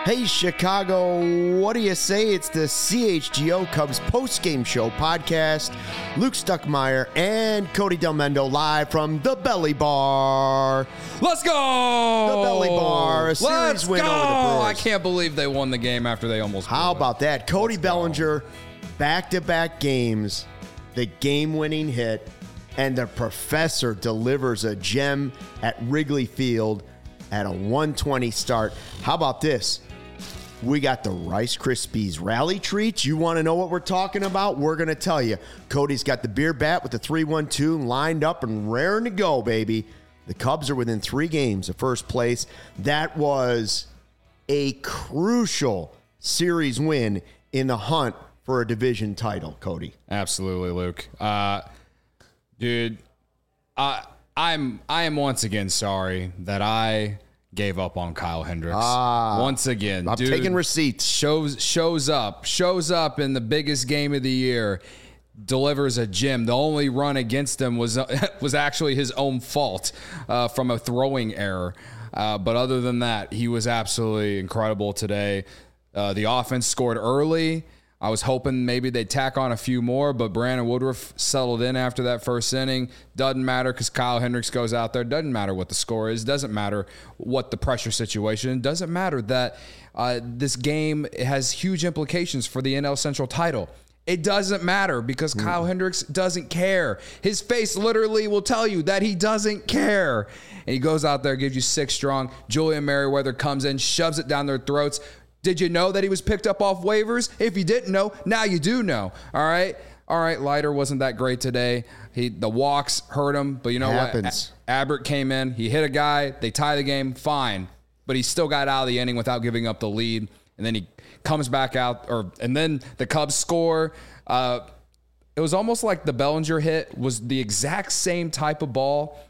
Hey, Chicago, what do you say? It's the CHGO Cubs postgame show podcast. Luke Stuckmeyer and Cody Delmendo live from the Belly Bar. Let's go! The Belly Bar, a series win over the Brewers. I can't believe they won the game after they almost How about that? Cody Bellinger, back-to-back games, the game-winning hit, and the professor delivers a gem at Wrigley Field at a 120 start. How about this? We got the Rice Krispies rally treats. You want to know what we're talking about? We're going to tell you. Cody's got the beer bat with the 3-1-2 lined up and raring to go, baby. The Cubs are within 3 games of first place. That was a crucial series win in the hunt for a division title, Cody. Absolutely, Luke. Dude, I am once again sorry that I gave up on Kyle Hendricks. Once again, I'm taking receipts. Shows up in the biggest game of the year, delivers a gem. The only run against him was actually his own fault from a throwing error. But other than that, he was absolutely incredible today. The offense scored early. I was hoping maybe they'd tack on a few more, but Brandon Woodruff settled in after that first inning. Doesn't matter because Kyle Hendricks goes out there. Doesn't matter what the score is. Doesn't matter what the pressure situation. Doesn't matter that this game has huge implications for the NL Central title. It doesn't matter because Kyle Hendricks doesn't care. His face literally will tell you that he doesn't care. And he goes out there, gives you 6 strong. Julian Merriweather comes in, shoves it down their throats. Did you know that he was picked up off waivers? If you didn't know, now you do know. All right, Leiter wasn't that great today. The walks hurt him, but you know what? Abbott came in. He hit a guy. They tie the game. Fine. But he still got out of the inning without giving up the lead. And then he comes back out, and then the Cubs score. It was almost like the Bellinger hit was the exact same type of ball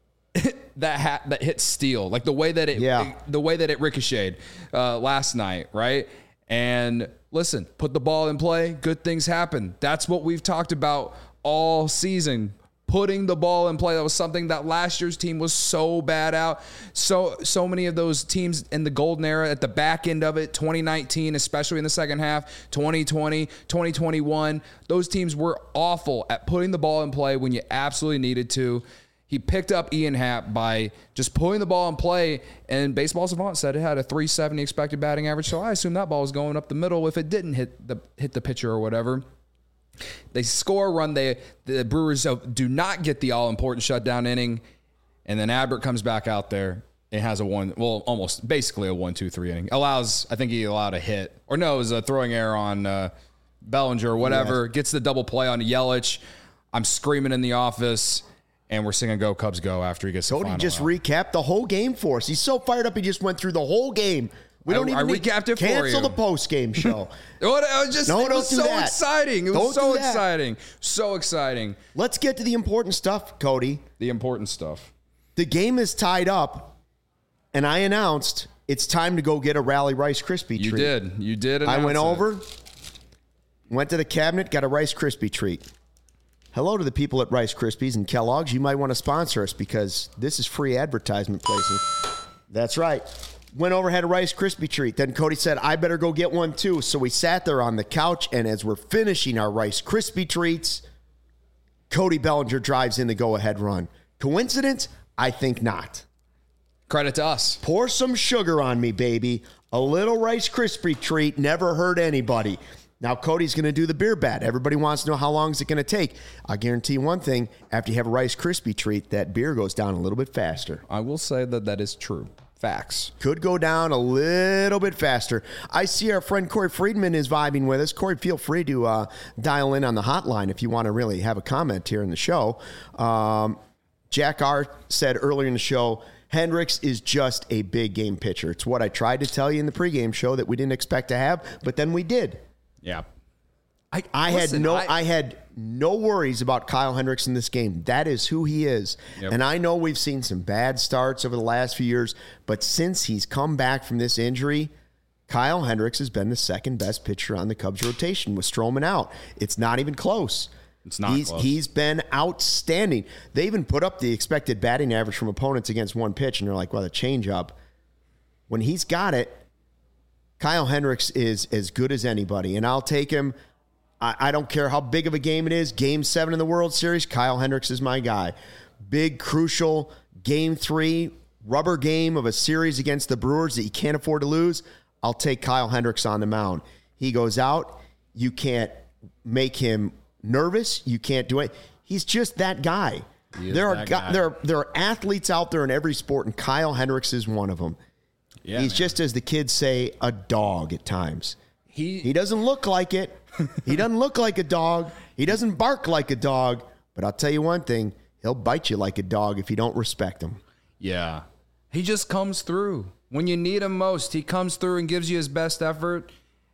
that hit Steele, like the way that it ricocheted last night, right? And listen, put the ball in play, good things happen. That's what we've talked about all season. Putting the ball in play. That was something that last year's team was so bad out. So many of those teams in the golden era at the back end of it, 2019, especially in the second half, 2020, 2021, those teams were awful at putting the ball in play when you absolutely needed to. He picked up Ian Happ by just putting the ball in play, and Baseball Savant said it had a 370 expected batting average, so I assume that ball was going up the middle if it didn't hit the pitcher or whatever. They score a run. The Brewers do not get the all-important shutdown inning, and then Abbott comes back out there and has almost basically a 1-2-3 inning. I think he allowed a hit. Or no, it was a throwing error on Bellinger or whatever. Yes. Gets the double play on Yelich. I'm screaming in the office. And we're singing "Go Cubs Go" after he gets the final Cody just out. Recapped the whole game for us. He's so fired up, he just went through the whole game. We don't even recapped it for you. Cancel the post-game show. It was so exciting. It was so exciting. So exciting. Let's get to the important stuff, Cody. The important stuff. The game is tied up, and I announced it's time to go get a Rally Rice Krispie treat. You did. I went over, went to the cabinet, got a Rice Krispie treat. Hello to the people at Rice Krispies and Kellogg's. You might want to sponsor us because this is free advertisement placement. That's right. Went over, had a Rice Krispie treat. Then Cody said, I better go get one too. So we sat there on the couch, and as we're finishing our Rice Krispie treats, Cody Bellinger drives in the go-ahead run. Coincidence? I think not. Credit to us. Pour some sugar on me, baby. A little Rice Krispie treat never hurt anybody. Now, Cody's going to do the beer bat. Everybody wants to know how long is it going to take. I guarantee you one thing. After you have a Rice Krispie treat, that beer goes down a little bit faster. I will say that is true. Facts. Could go down a little bit faster. I see our friend Corey Friedman is vibing with us. Corey, feel free to dial in on the hotline if you want to really have a comment here in the show. Jack R. said earlier in the show, Hendricks is just a big game pitcher. It's what I tried to tell you in the pregame show that we didn't expect to have, but then we did. Yeah. I had no worries about Kyle Hendricks in this game. That is who he is. Yep. And I know we've seen some bad starts over the last few years, but since he's come back from this injury, Kyle Hendricks has been the second best pitcher on the Cubs rotation with Stroman out. It's not even close. It's not close. He's been outstanding. They even put up the expected batting average from opponents against one pitch, and they're like, well, the changeup. When he's got it, Kyle Hendricks is as good as anybody, and I'll take him. I don't care how big of a game it is. Game 7 in the World Series, Kyle Hendricks is my guy. Big, crucial Game 3, rubber game of a series against the Brewers that you can't afford to lose. I'll take Kyle Hendricks on the mound. He goes out. You can't make him nervous. You can't do it. He's just that guy. There are athletes out there in every sport, and Kyle Hendricks is one of them. Yeah, he's just, as the kids say, a dog at times. He doesn't look like it. He doesn't look like a dog. He doesn't bark like a dog. But I'll tell you one thing. He'll bite you like a dog if you don't respect him. Yeah. He just comes through. When you need him most, he comes through and gives you his best effort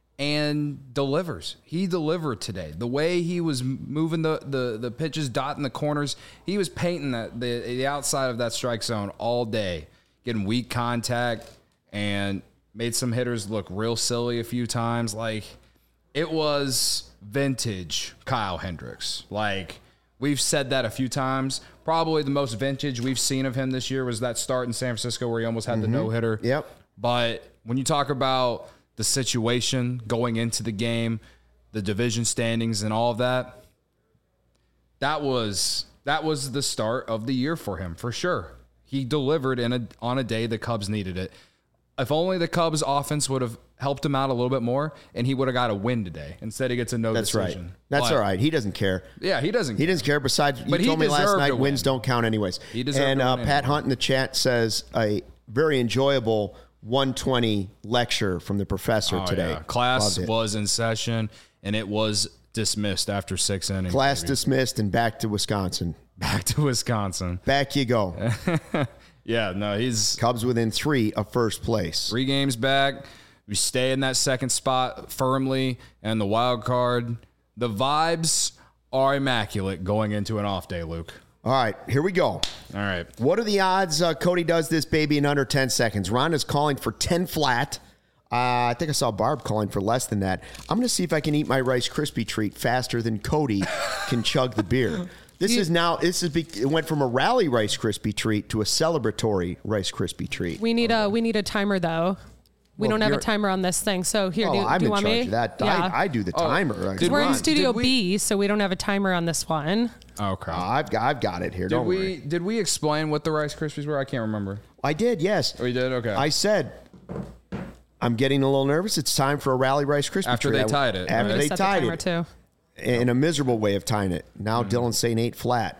and delivers. He delivered today. The way he was moving the pitches, dotting the corners, he was painting the outside of that strike zone all day, getting weak contact, and made some hitters look real silly a few times. Like, it was vintage Kyle Hendricks. Like, we've said that a few times. Probably the most vintage we've seen of him this year was that start in San Francisco where he almost had the no-hitter. Yep. But when you talk about the situation going into the game, the division standings and all of that, that was the start of the year for him, for sure. He delivered on a day the Cubs needed it. If only the Cubs offense would have helped him out a little bit more, and he would have got a win today. Instead, he gets a no decision. Right. That's all right. He doesn't care. Yeah, he doesn't. He doesn't care. Besides, you told me last night wins don't count anyways. He deserved and to win Pat anyway. Hunt in the chat says a very enjoyable 120 lecture from the professor today. Yeah. Class was in session, and it was dismissed after 6 innings. Class dismissed and back to Wisconsin. Back to Wisconsin. Back you go. Yeah, no, he's Cubs within 3 of first place. 3 games back. We stay in that second spot firmly, and the wild card. The vibes are immaculate going into an off day, Luke. All right, here we go. All right. What are the odds Cody does this baby in under 10 seconds? Ron is calling for 10 flat. I think I saw Barb calling for less than that. I'm going to see if I can eat my Rice Krispie treat faster than Cody can chug the beer. It went from a rally Rice Krispie treat to a celebratory Rice Krispie treat. We need a timer though. We don't have a timer on this thing. So here, do you want me? I'm in charge of that. Yeah. I do the timer. We're in Studio B, so we don't have a timer on this one. Okay. I've got it here. Don't worry. Did we explain what the Rice Krispies were? I can't remember. I did, yes. Oh, you did? Okay. I said, I'm getting a little nervous. It's time for a rally Rice Krispie After treat. they tied it. After right? they Set tied the timer it. too. In a miserable way of tying it. Now Dylan's saying 8 flat.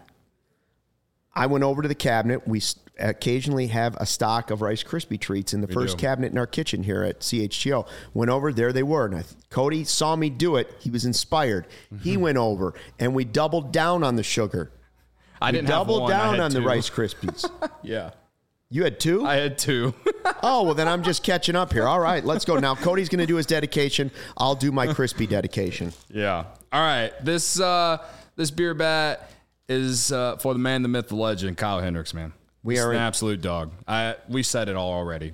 I went over to the cabinet. We occasionally have a stock of Rice Krispie treats in the first cabinet in our kitchen here at CHGO. Went over, there they were. And Cody saw me do it. He was inspired. He went over, and we doubled down on the sugar. I didn't have doubled one. down I had on 2. the Rice Krispies. Yeah. You had 2? I had 2. Oh, well, then I'm just catching up here. All right, let's go. Now, Cody's going to do his dedication. I'll do my crispy dedication. Yeah. All right. This beer bat is for the man, the myth, the legend, Kyle Hendricks, man. He's an absolute dog. We said it all already.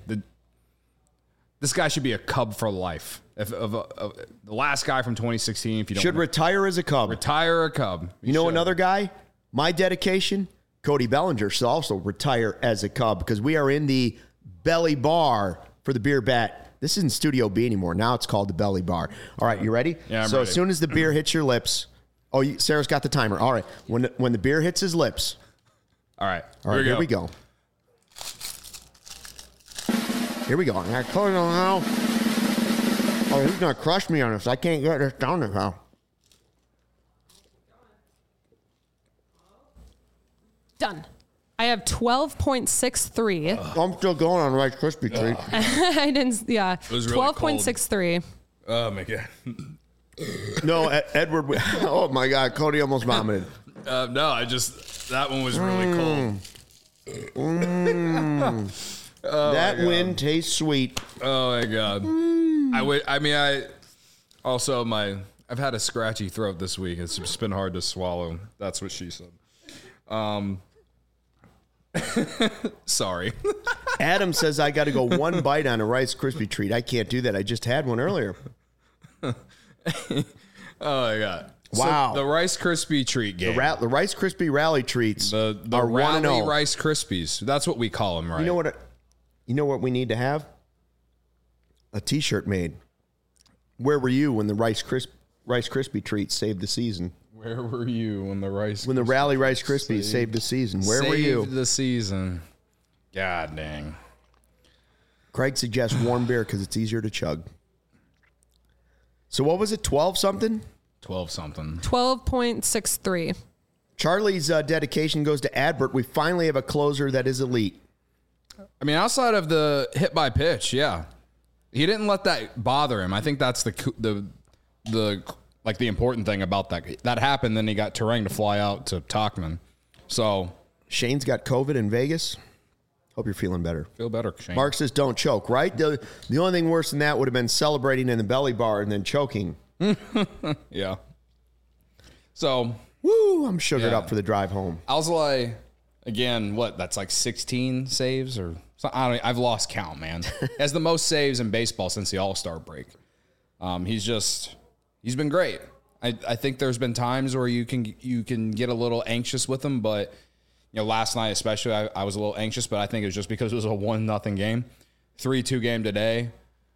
This guy should be a Cub for life. The last guy from 2016, if you don't Should retire as a Cub. Retire a Cub. You know another guy? My dedication, Cody Bellinger should also retire as a Cub because we are in the belly bar for the beer bat. This isn't Studio B anymore. Now it's called the belly bar. All right, you ready? Yeah, I'm so ready. As soon as the beer hits your lips, Sarah's got the timer. All right, when the beer hits his lips. All right, here we go. Here we go. I close it now. Oh, he's gonna crush me on this. I can't get this down there now. Done. I have 12.63. I'm still going on Rice Krispie treat. I didn't. Yeah. It was really 12.63. Oh my god. No, Edward. Oh my God, Cody almost vomited. No, that one was really cold. That wind tastes sweet. Oh my god. I've had a scratchy throat this week. It's just been hard to swallow. That's what she said. Sorry. Adam says I got to go one bite on a Rice Krispie treat. I can't do that. I just had one earlier. Oh my god! Wow. So the Rice Krispie treat game. The Rice Krispie rally treats The are rally 1-0. Rice Krispies. That's what we call them, right? You know what we need to have? a T-shirt made. Where were you when the Rice Krispie treats saved the season? Where were you when the Rally Rice Krispies saved the season? Where were you? Saved the season. God dang. Craig suggests warm beer because it's easier to chug. So what was it? 12 something? 12 something. 12.63. Charlie's dedication goes to Adbert. We finally have a closer that is elite. I mean, outside of the hit by pitch, yeah, he didn't let that bother him. I think that's the important thing about that. That happened, then he got Turang to fly out to Tauchman. So Shane's got COVID in Vegas. Hope you're feeling better. Feel better, Shane. Mark says don't choke, right? The only thing worse than that would have been celebrating in the belly bar and then choking. Yeah. So, woo, I'm sugared up for the drive home. Alzolay, again, that's like 16 saves or something? I've lost count, man. Has the most saves in baseball since the All-Star break. He's been great. I think there's been times where you can get a little anxious with him, but last night especially, I was a little anxious, but I think it was just because it was a 1-0 game, 3-2 game today.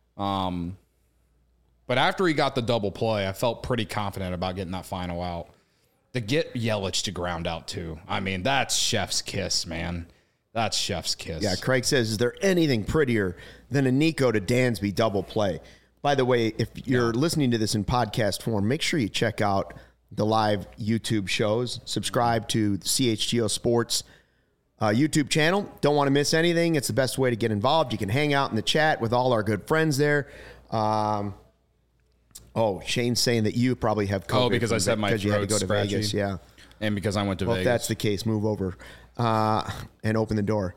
But after he got the double play, I felt pretty confident about getting that final out. To get Yelich to ground out too, I mean, that's chef's kiss, man. That's chef's kiss. Yeah, Craig says, is there anything prettier than a Nico to Dansby double play? By the way, if you're listening to this in podcast form, make sure you check out the live YouTube shows. Subscribe to the CHGO Sports YouTube channel. Don't want to miss anything. It's the best way to get involved. You can hang out in the chat with all our good friends there. Shane's saying that you probably have COVID. Oh, because I said my throat's you had to go to scratchy. Vegas. Yeah. And because I went to Vegas. If that's the case, move over and open the door.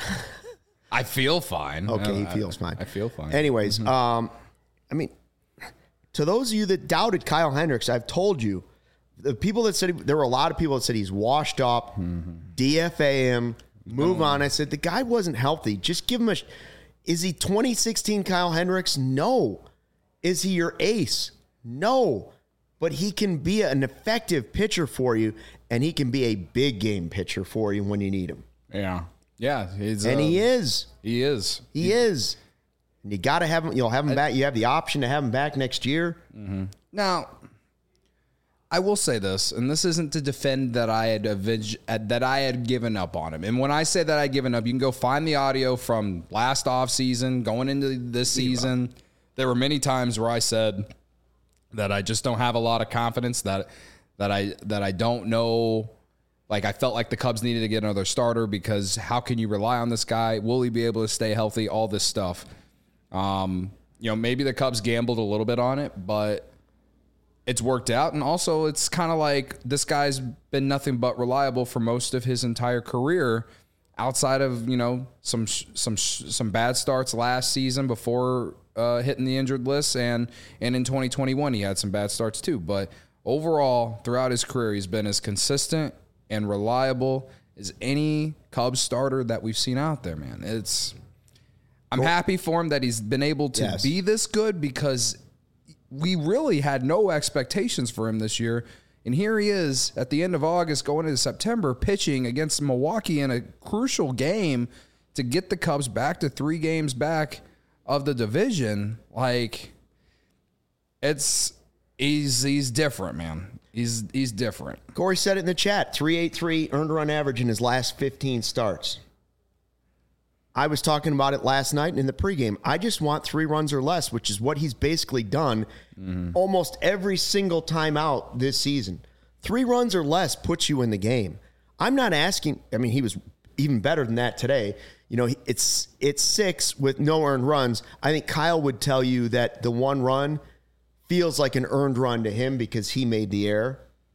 I feel fine. Okay, he feels fine. I feel fine. Anyways, I mean, to those of you that doubted Kyle Hendricks, I've told you, the people that said, there were a lot of people that said he's washed up, DFA him, move on. I said, the guy wasn't healthy. Just give him is he 2016 Kyle Hendricks? No. Is he your ace? No. But he can be an effective pitcher for you, and he can be a big game pitcher for you when you need him. Yeah. Yeah. He is. He is. He is. And you got to have him. You'll have him back. You have the option to have him back next year. Mm-hmm. Now, I will say this, and this isn't to defend that I had given up on him. And when I say that I'd given up, you can go find the audio from last offseason, going into this season. There were many times where I said that I just don't have a lot of confidence, that I don't know. Like, I felt like the Cubs needed to get another starter because how can you rely on this guy? Will he be able to stay healthy? All this stuff. Maybe the Cubs gambled a little bit on it, but it's worked out. And also, it's kind of like this guy's been nothing but reliable for most of his entire career, outside of some bad starts last season before hitting the injured list, and in 2021 he had some bad starts too. But overall, throughout his career, he's been as consistent and reliable as any Cubs starter that we've seen out there, man. I'm happy for him that he's been able to be this good, because we really had no expectations for him this year. And here he is at the end of August going into September pitching against Milwaukee in a crucial game to get the Cubs back to 3 games back of the division. Like, he's different, man. He's different. Corey said it in the chat, 3.83 earned run average in his last 15 starts. I was talking about it last night in the pregame. I just want 3 runs or less, which is what he's basically done almost every single time out this season. 3 runs or less puts you in the game. I'm not asking. I mean, he was even better than that today. It's 6 with no earned runs. I think Kyle would tell you that the 1 run feels like an earned run to him because he made the error.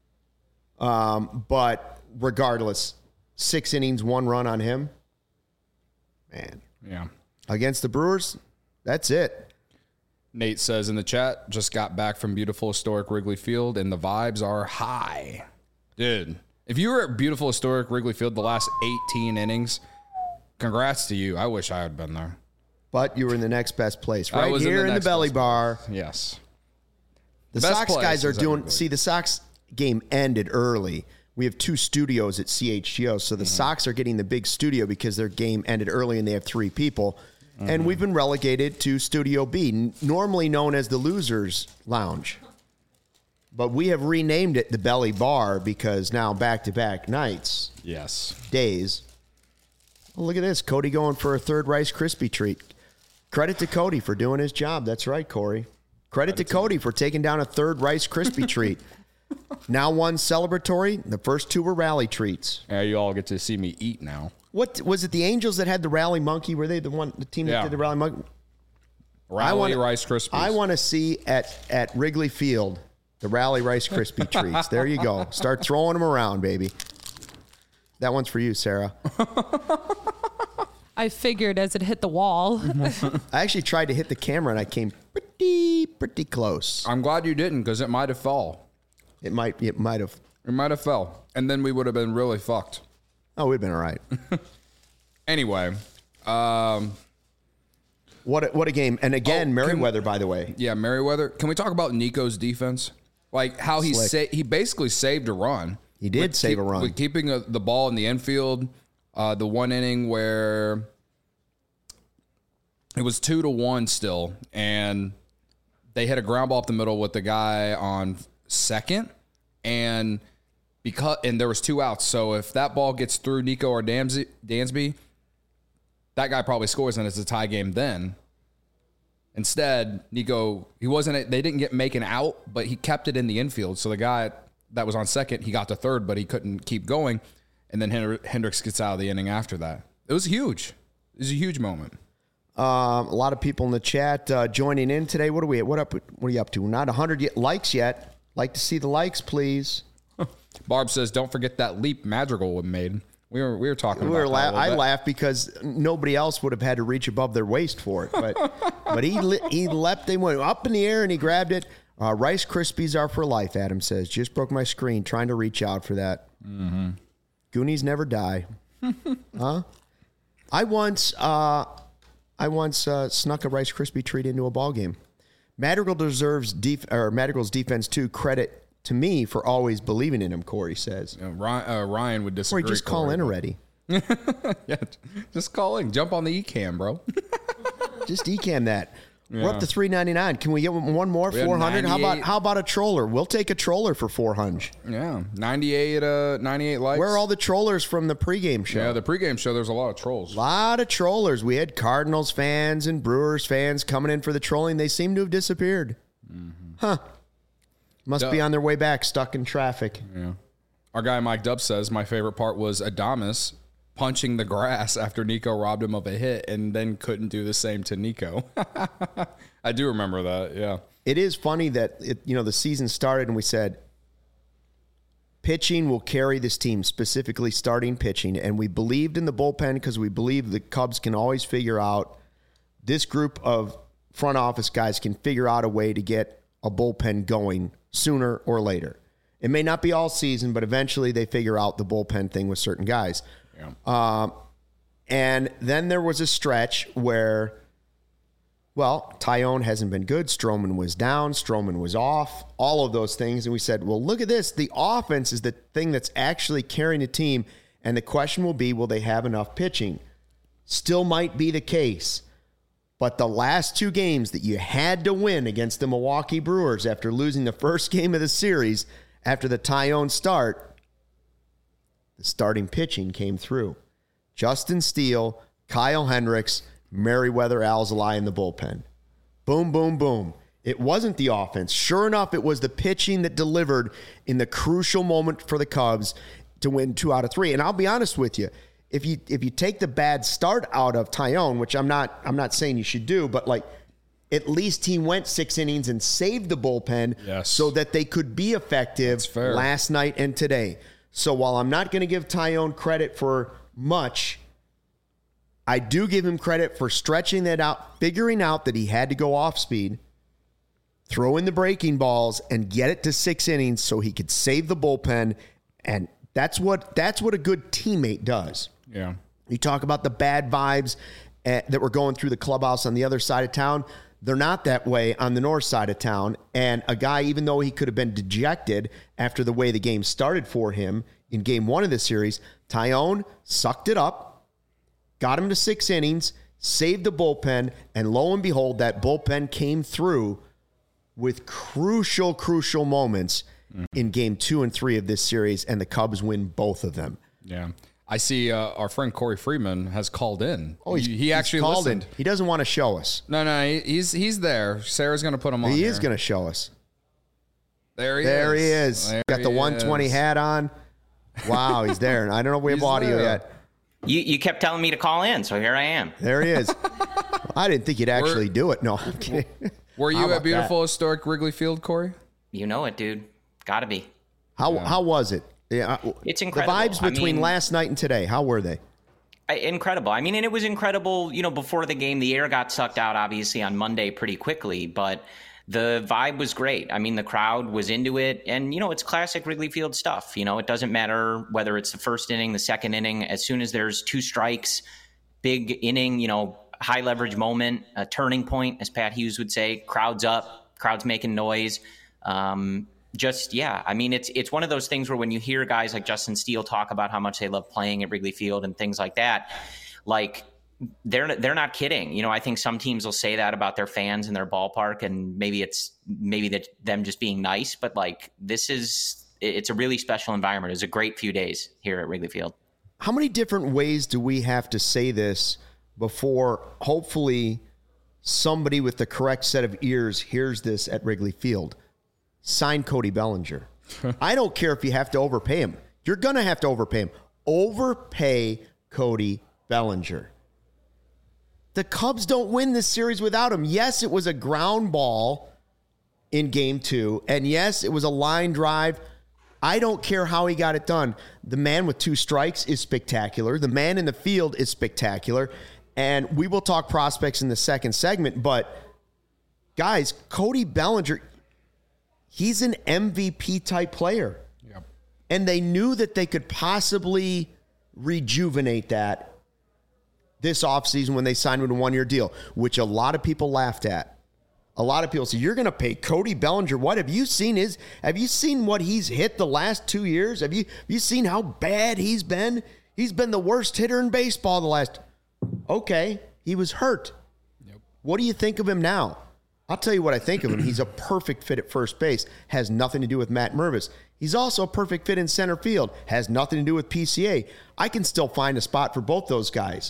But regardless, 6 innings, 1 run on him. Man. Yeah. Against the Brewers, that's it. Nate says in the chat, just got back from beautiful historic Wrigley Field, and the vibes are high. Dude, if you were at beautiful historic Wrigley Field the last 18 innings, congrats to you. I wish I had been there. But you were in the next best place. Right here in the belly bar. Yes. The Sox guys are doing... See, the Sox game ended early. We have 2 studios at CHGO, so the Sox are getting the big studio because their game ended early and they have 3 people. And we've been relegated to Studio B, normally known as the Losers Lounge. But we have renamed it the Belly Bar because now back-to-back nights, days. Well, look at this. Cody going for a third Rice Krispie treat. Credit to Cody for doing his job. That's right, Corey. Credit to Cody for taking down a third Rice Krispie treat. Now one celebratory. The first two were rally treats. Yeah, you all get to see me eat now. What was it? The Angels that had the rally monkey? Were they the team that did the rally monkey? Rally Rice Krispies. I want to see at Wrigley Field the rally Rice Krispie treats. There you go. Start throwing them around, baby. That one's for you, Sarah. I figured as it hit the wall. I actually tried to hit the camera and I came pretty close. I'm glad you didn't because it might have fell. It might have. It might have fell, and then we would have been really fucked. Oh, we'd been all right. Anyway, what a game! And again, Merriweather, by the way. Yeah, Merriweather. Can we talk about Nico's defense? Like how he basically saved a run. He did save a run with keeping the ball in the infield. The one inning where it was 2-1 still, and they hit a ground ball up the middle with the guy on second, and there was 2 outs. So if that ball gets through Nico or Dansby, that guy probably scores, and it's a tie game then. Instead, Nico, they didn't make an out, but he kept it in the infield. So the guy that was on second, he got to third, but he couldn't keep going. And then Hendricks gets out of the inning after that. It was huge. It was a huge moment. A lot of people in the chat joining in today. What are you up to? We're not 100 likes yet. Like to see the likes, please. Barb says, "Don't forget that leap Madrigal made." We were talking about that. I laughed because nobody else would have had to reach above their waist for it. But he leapt. They went up in the air and he grabbed it. Rice Krispies are for life. Adam says, "Just broke my screen trying to reach out for that." Mm-hmm. Goonies never die. Huh? I once snuck a Rice Krispie treat into a ball game. Madrigal deserves Madrigal's defense too. Credit to me for always believing in him. Corey says. Ryan would disagree. Corey, just call in already. Yeah, just call in. Jump on the eCam, bro. Just eCam that. Yeah. We're up to $3.99. Can we get one more? 400. How about a troller? We'll take a troller for 400. Yeah, 98 likes. Where are all the trollers from the pregame show? Yeah, the pregame show. There's a lot of trolls. A lot of trollers. We had Cardinals fans and Brewers fans coming in for the trolling. They seem to have disappeared. Mm-hmm. Huh? Must be on their way back, stuck in traffic. Yeah. Our guy Mike Dub says my favorite part was Adames punching the grass after Nico robbed him of a hit and then couldn't do the same to Nico. I do remember that, yeah. It is funny that the season started and we said pitching will carry this team, specifically starting pitching, and we believed in the bullpen because we believe the Cubs can always figure out, this group of front office guys can figure out a way to get a bullpen going sooner or later. It may not be all season, but eventually they figure out the bullpen thing with certain guys. Yeah. And then there was a stretch where, Tyone hasn't been good. Stroman was down. Stroman was off. All of those things. And we said, well, look at this. The offense is the thing that's actually carrying the team. And the question will be, will they have enough pitching? Still might be the case. But the last 2 games that you had to win against the Milwaukee Brewers after losing the first game of the series after the Tyone start, the starting pitching came through. Justin Steele, Kyle Hendricks, Merriweather, Alzolay in the bullpen. Boom, boom, boom. It wasn't the offense. Sure enough, it was the pitching that delivered in the crucial moment for the Cubs to win 2 out of 3. And I'll be honest with you, if you take the bad start out of Tyone, which I'm not saying you should do, but at least he went 6 innings and saved the bullpen so that they could be effective last night and today. So while I'm not going to give Tyone credit for much, I do give him credit for stretching that out, figuring out that he had to go off speed, throw in the breaking balls, and get it to 6 innings so he could save the bullpen. And that's what a good teammate does. Yeah. You talk about the bad vibes that were going through the clubhouse on the other side of town. They're not that way on the north side of town. And a guy, even though he could have been dejected after the way the game started for him in game 1 of the series, Tyone sucked it up, got him to 6 innings, saved the bullpen, and lo and behold, that bullpen came through with crucial moments in game 2 and 3 of this series, and the Cubs win both of them. Yeah. I see our friend Corey Freeman has called in. Oh, he actually called listened. in. He doesn't want to show us. No, he's there. Sarah's going to put him on. He here. is going to show us. There he is. Got the 120 hat on. Wow, he's there. And I don't know if we have audio yet. You kept telling me to call in, so here I am. There he is. I didn't think you'd actually do it. No, I'm kidding. Were you at beautiful, historic Wrigley Field, Corey? You know it, dude. Gotta be. How was it? Yeah, it's incredible. The vibes between last night and today, how were they? Incredible. I mean, and it was incredible, before the game. The air got sucked out, obviously, on Monday pretty quickly, but the vibe was great. I mean, the crowd was into it, and, it's classic Wrigley Field stuff. It doesn't matter whether it's the first inning, the second inning. As soon as there's 2 strikes, big inning, high leverage moment, a turning point, as Pat Hughes would say, crowd's up, crowd's making noise. I mean, it's one of those things where when you hear guys like Justin Steele talk about how much they love playing at Wrigley Field and things like that, like they're not kidding. I think some teams will say that about their fans and their ballpark, and maybe that them just being nice, but like it's a really special environment. It was a great few days here at Wrigley Field. How many different ways do we have to say this before hopefully somebody with the correct set of ears hears this at Wrigley Field? Sign Cody Bellinger. I don't care if you have to overpay him. You're going to have to overpay him. Overpay Cody Bellinger. The Cubs don't win this series without him. Yes, it was a ground ball in game 2. And yes, it was a line drive. I don't care how he got it done. The man with 2 strikes is spectacular. The man in the field is spectacular. And we will talk prospects in the second segment. But guys, Cody Bellinger, he's an MVP type player. Yep. And they knew that they could possibly rejuvenate that this offseason when they signed him to a 1-year deal, which a lot of people laughed at. A lot of people say, you're going to pay Cody Bellinger what? Have you seen what he's hit the last 2 years? Have you seen how bad he's been? He's been the worst hitter in baseball the last. Okay, he was hurt. Yep. What do you think of him now? I'll tell you what I think of him. He's a perfect fit at first base. Has nothing to do with Matt Mervis. He's also a perfect fit in center field. Has nothing to do with PCA. I can still find a spot for both those guys.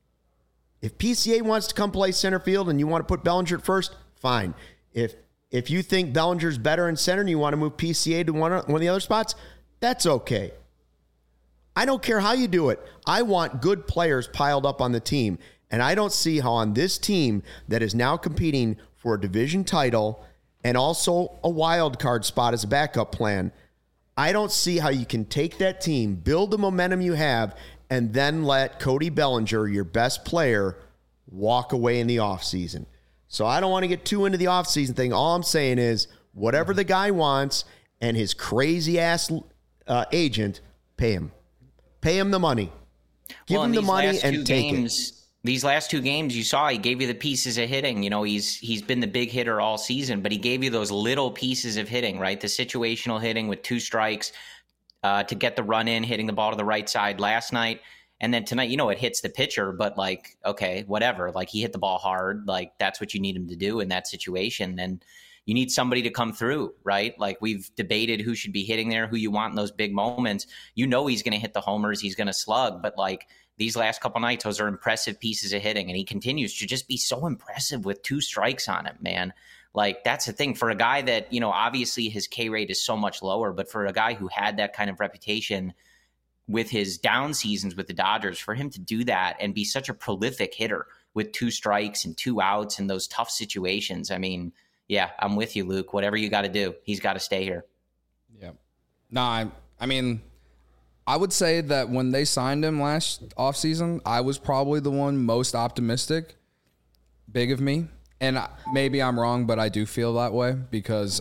If PCA wants to come play center field and you want to put Bellinger at first, fine. If you think Bellinger's better in center and you want to move PCA to one of the other spots, that's okay. I don't care how you do it. I want good players piled up on the team. And I don't see how on this team that is now competing for a division title and also a wild card spot as a backup plan, I don't see how you can take that team, build the momentum you have, and then let Cody Bellinger, your best player, walk away in the offseason. So I don't want to get too into the offseason thing. All I'm saying is whatever the guy wants and his crazy-ass agent, pay him. Pay him the money. Give him the money and take it. These last 2 games, you saw he gave you the pieces of hitting. He's been the big hitter all season, but he gave you those little pieces of hitting, right? The situational hitting with 2 strikes to get the run in, hitting the ball to the right side last night. And then tonight, it hits the pitcher, but like, okay, whatever. Like he hit the ball hard. Like that's what you need him to do in that situation. And you need somebody to come through, right? Like we've debated who should be hitting there, who you want in those big moments. He's going to hit the homers. He's going to slug, but like, these last couple nights, those are impressive pieces of hitting, and he continues to just be so impressive with 2 strikes on him, man. Like, that's the thing. For a guy that, obviously his K rate is so much lower, but for a guy who had that kind of reputation with his down seasons with the Dodgers, for him to do that and be such a prolific hitter with 2 strikes and 2 outs in those tough situations, I mean, yeah, I'm with you, Luke. Whatever you got to do, he's got to stay here. Yeah. No, I mean, I would say that when they signed him last offseason, I was probably the one most optimistic. Big of me. And maybe I'm wrong, but I do feel that way because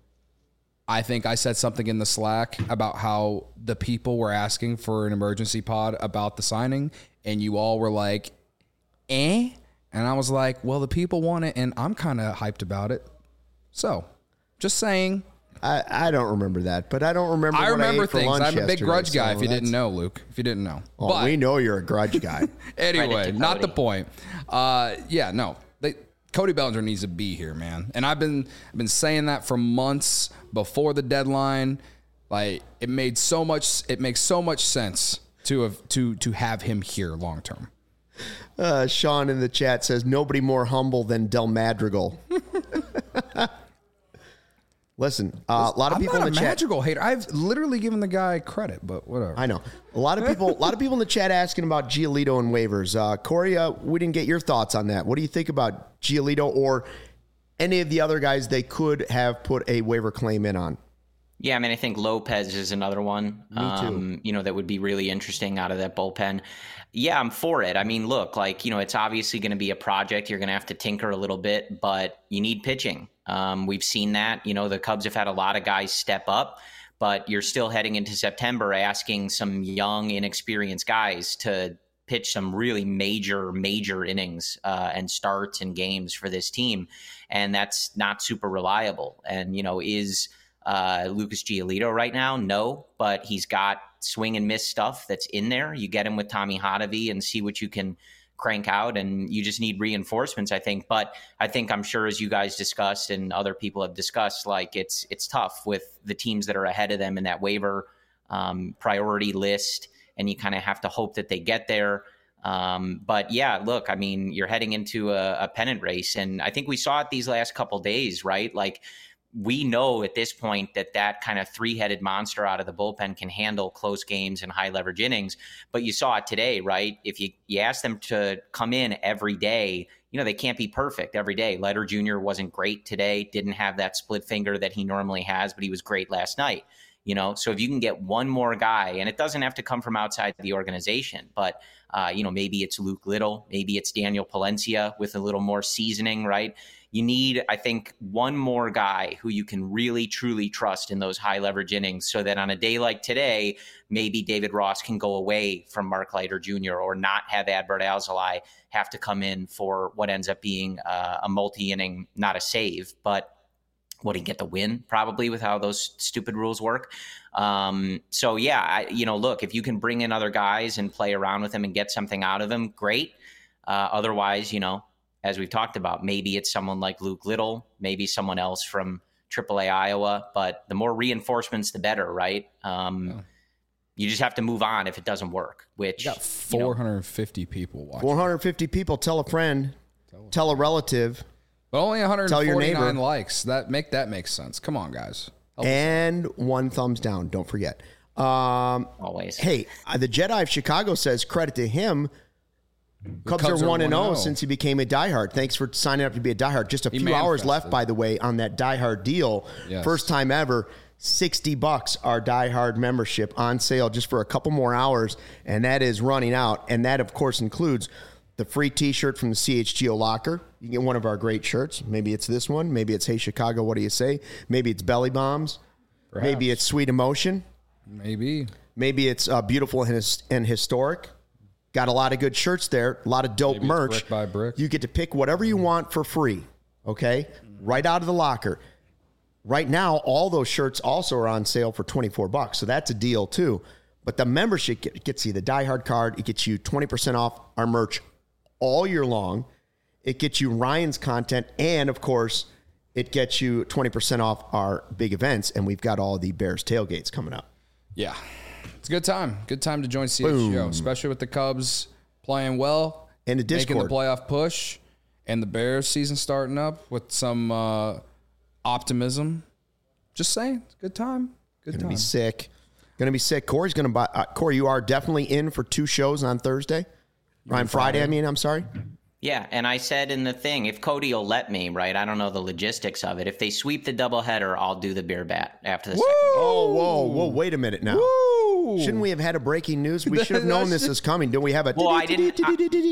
I think I said something in the Slack about how the people were asking for an emergency pod about the signing, and you all were like, eh? And I was like, well, the people want it, and I'm kind of hyped about it. So, just saying. I don't remember that, but I don't remember. I remember ate for things. lunch I'm a big yesterday, grudge guy. so If you didn't know, Luke. If you didn't know, well, but we know you're a grudge guy. anyway, not the Cody. point. Yeah, no. Cody Bellinger needs to be here, man. And I've been saying that for months before the deadline. Like it makes so much sense to have him here long term. Sean in the chat says nobody more humble than Del Madrigal. Listen, a lot of people I'm not in the a chat. Madrigal hater. I've literally given the guy credit, but whatever. I know a lot of people in the chat asking about Giolito and waivers. Corey, we didn't get your thoughts on that. What do you think about Giolito or any of the other guys they could have put a waiver claim in on? Yeah, I mean, I think Lopez is another one. Me too. That would be really interesting out of that bullpen. Yeah, I'm for it. I mean, look, it's obviously going to be a project. You're going to have to tinker a little bit, but you need pitching. We've seen that. The Cubs have had a lot of guys step up, but you're still heading into September asking some young, inexperienced guys to pitch some really major innings and starts and games for this team. And that's not super reliable. And, is Lucas Giolito right now? No, but he's got swing and miss stuff that's in there. You get him with Tommy Hotovy and see what you can crank out, and you just need reinforcements, I think. But I'm sure, as you guys discussed and other people have discussed, it's tough with the teams that are ahead of them in that waiver priority list, and you kind of have to hope that they get there. But yeah, look, I mean, you're heading into a pennant race, and I think we saw it these last couple days, right? We know at this point that kind of three-headed monster out of the bullpen can handle close games and high leverage innings. But you saw it today, right? If you ask them to come in every day, they can't be perfect every day. Leiter Jr. wasn't great today, didn't have that split finger that he normally has, but he was great last night. So if you can get one more guy, and it doesn't have to come from outside the organization, but maybe it's Luke Little, maybe it's Daniel Palencia with a little more seasoning, right? You need, I think, one more guy who you can really, truly trust in those high leverage innings, so that on a day like today, maybe David Ross can go away from Mark Leiter Jr. or not have Adbert Alzolay have to come in for what ends up being a multi-inning, not a save, but would he get the win probably with how those stupid rules work? So yeah, look, if you can bring in other guys and play around with them and get something out of them, great. Otherwise, as we've talked about, maybe it's someone like Luke Little, maybe someone else from AAA Iowa, but the more reinforcements, the better, right? You just have to move on if it doesn't work, which got 450 people watching. 450 people. Tell a friend, tell a relative. But only Tell your 149 neighbor. likes. That makes sense. Come on, guys. Help us. And one thumbs down. Don't forget. always. Hey, the Jedi of Chicago says credit to him. Cubs are 1-0 since he became a diehard. Thanks for signing up to be a diehard. Just a few hours left, by the way, on that diehard deal. Yes. First time ever. $60 our diehard membership on sale just for a couple more hours, and that is running out. And that, of course, includes the free T-shirt from the CHGO locker. You can get one of our great shirts. Maybe it's this one. Maybe it's Hey Chicago, what do you say? Maybe it's Belly Bombs. Perhaps. Maybe it's Sweet Emotion. Maybe it's Beautiful and Historic. Got a lot of good shirts there. A lot of dope merch. Brick by brick. You get to pick whatever you want for free. Okay? Right out of the locker. Right now, all those shirts also are on sale for $24. So that's a deal too. But the membership gets you the diehard card. It gets you 20% off our merch all year long. It gets you Ryan's content. And of course, it gets you 20% off our big events. And we've got all the Bears tailgates coming up. Yeah. It's a good time. Good time to join CHGO, especially with the Cubs playing well. And the Discord. Making the playoff push. And the Bears season starting up with some optimism. Just saying. It's a good time. Gonna be sick. Gonna be sick. Corey's gonna buy. Corey, you are definitely in for 2 shows on Thursday. Ryan, Friday. I'm sorry. Yeah, and I said in the thing, if Cody will let me, right? I don't know the logistics of it. If they sweep the doubleheader, I'll do the beer bat after the second. Whoa! Wait a minute now. Woo! Shouldn't we have had a breaking news? We should have known this is coming. Don't we have a? Well, I didn't.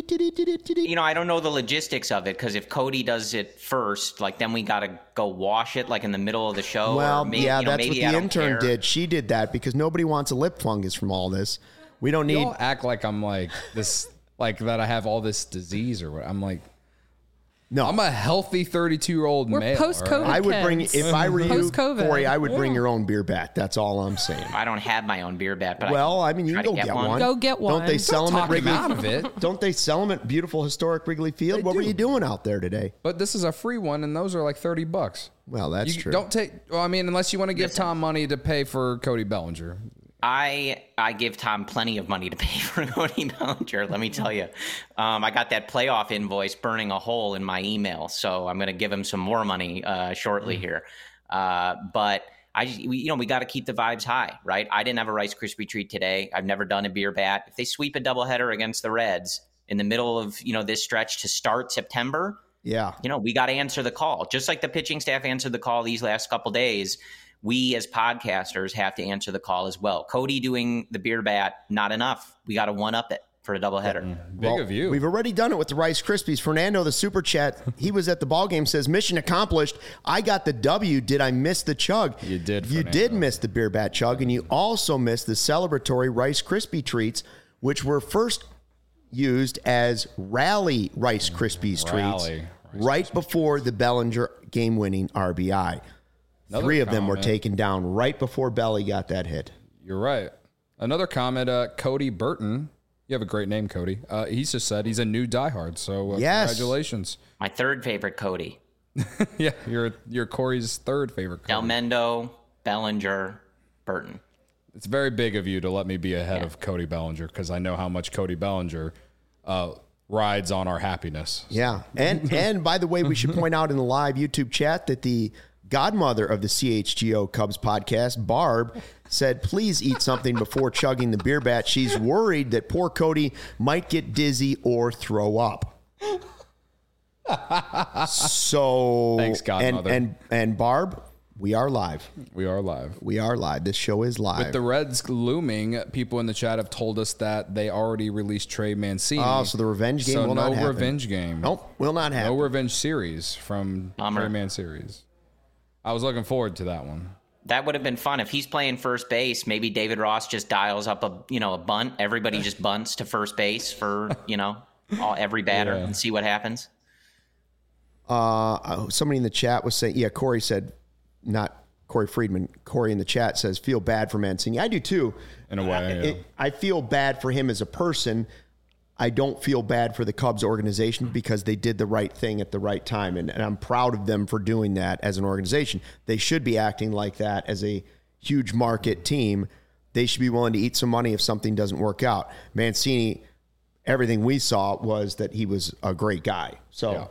I don't know the logistics of it, because if Cody does it first, like then we got to go wash it like in the middle of the show. Well, maybe, yeah, that's maybe what the intern did. She did that because nobody wants a lip fungus from all this. We don't need. You all act like I'm like this. Like that I have all this disease or what. I'm like, No. I'm a healthy 32-year-old We're male. post-COVID. I would bring, kids. if I were you, Post-COVID. Corey, I would bring your own beer bat. That's all I'm saying. I don't have my own beer bat, but Well, I mean, you try can to go get one. Go get one. Don't they sell them at Talk him Wrigley? out of it. Don't they sell them at beautiful historic Wrigley Field? What were you doing out there today? But this is a free one, and those are like $30. Well, that's You true. don't take. Well, I mean, unless you want to give Tom money to pay for Cody Bellinger. I give Tom plenty of money to pay for Cody Bellinger. Let me tell you, I got that playoff invoice burning a hole in my email, so I'm going to give him some more money shortly here. But we got to keep the vibes high, right? I didn't have a Rice Krispie treat today. I've never done a beer bat. If they sweep a doubleheader against the Reds in the middle of this stretch to start September, Yeah. we got to answer the call, just like the pitching staff answered the call these last couple days. We as podcasters have to answer the call as well. Cody doing the beer bat, not enough. We got to one up it for a doubleheader. Big of you. We've already done it with the Rice Krispies. Fernando, the super chat, he was at the ball game, says, mission accomplished. I got the W. Did I miss the chug? You did, You Fernando. did miss the beer bat chug, and you also missed the celebratory Rice Krispie treats, which were first used as rally Rice Krispies treats Rally Rice right before the Bellinger game-winning RBI. Another 3 of them were comment. taken down right before Belly got that hit. You're right. Another comment, Cody Burton. You have a great name, Cody. He's just said he's a new diehard, so Yes. congratulations. My third favorite Cody. Yeah, you're Corey's third favorite Cody. Delmendo, Bellinger, Burton. It's very big of you to let me be ahead of Cody Bellinger because I know how much Cody Bellinger rides on our happiness. Yeah. And by the way, we should point out in the live YouTube chat that the godmother of the CHGO Cubs podcast, Barb, said, please eat something before chugging the beer bat. She's worried that poor Cody might get dizzy or throw up. So Thanks, godmother. And Barb, we are live. We are live. We are live. This show is live. With the Reds looming, people in the chat have told us that they already released Trey Mancini. Oh, so the revenge game will not happen. No revenge game. Nope, will not happen. No revenge series from Bummer. Trey Man series. I was looking forward to that one. That would have been fun if he's playing first base. Maybe David Ross just dials up a bunt. Everybody just bunts to first base for every batter and see what happens. Somebody in the chat was saying, yeah, Corey said, not Corey Friedman. Corey in the chat says, feel bad for Mancini. I do too. In a way, I feel bad for him as a person. I don't feel bad for the Cubs organization because they did the right thing at the right time. And I'm proud of them for doing that as an organization. They should be acting like that as a huge market team. They should be willing to eat some money if something doesn't work out. Mancini, everything we saw was that he was a great guy. So Yeah.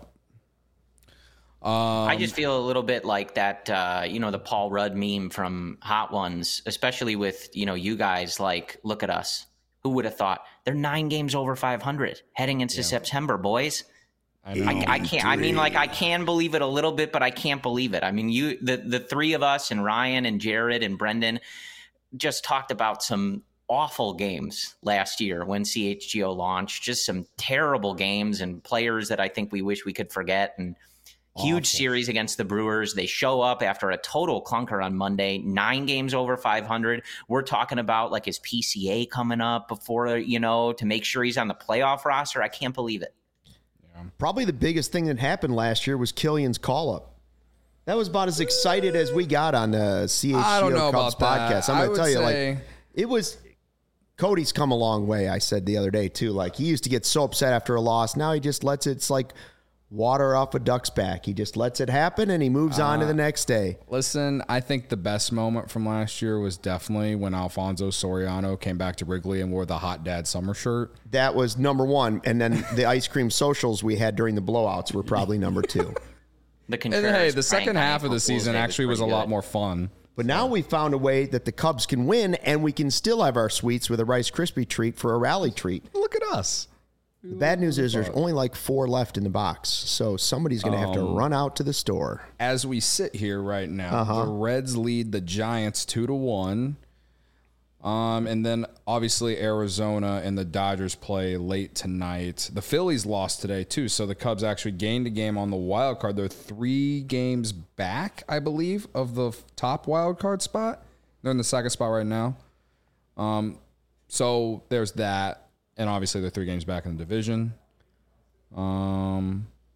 I just feel a little bit like that, the Paul Rudd meme from Hot Ones, especially with, you guys, like, look at us. Who would have thought? They're 9 games over 500 heading into September, boys. I can't. I mean, like, I can believe it a little bit, but I can't believe it. I mean, the 3 of us and Ryan and Jared and Brendan just talked about some awful games last year when CHGO launched. Just some terrible games and players that I think we wish we could forget. And huge series against the Brewers. They show up after a total clunker on Monday, 9 games over 500. We're talking about like his PCA coming up before, to make sure he's on the playoff roster. I can't believe it. probably the biggest thing that happened last year was Killian's call-up. That was about as excited as we got on the I don't know CHGO Cubs about that. podcast. I'm going to tell you, say- like, it was – Cody's come a long way, I said the other day, too. Like, he used to get so upset after a loss. Now he just lets it – it's like – water off a duck's back. He just lets it happen and he moves on to the next day. Listen, I think the best moment from last year was definitely when Alfonso Soriano came back to Wrigley and wore the Hot Dad summer shirt. That was number 1. And then the ice cream socials we had during the blowouts were probably number 2. The And hey, the second half of the season actually was a lot more fun. But now we found a way that the Cubs can win and we can still have our sweets with a Rice Krispie treat for a rally treat. Look at us. The bad news is there's only like 4 left in the box. So somebody's going to have to run out to the store. As we sit here right now, the Reds lead the Giants 2-1. And then obviously Arizona and the Dodgers play late tonight. The Phillies lost today too, so the Cubs actually gained a game on the wild card. They're 3 games back, I believe, of the top wild card spot. They're in the second spot right now. So there's that. And obviously they're 3 games back in the division.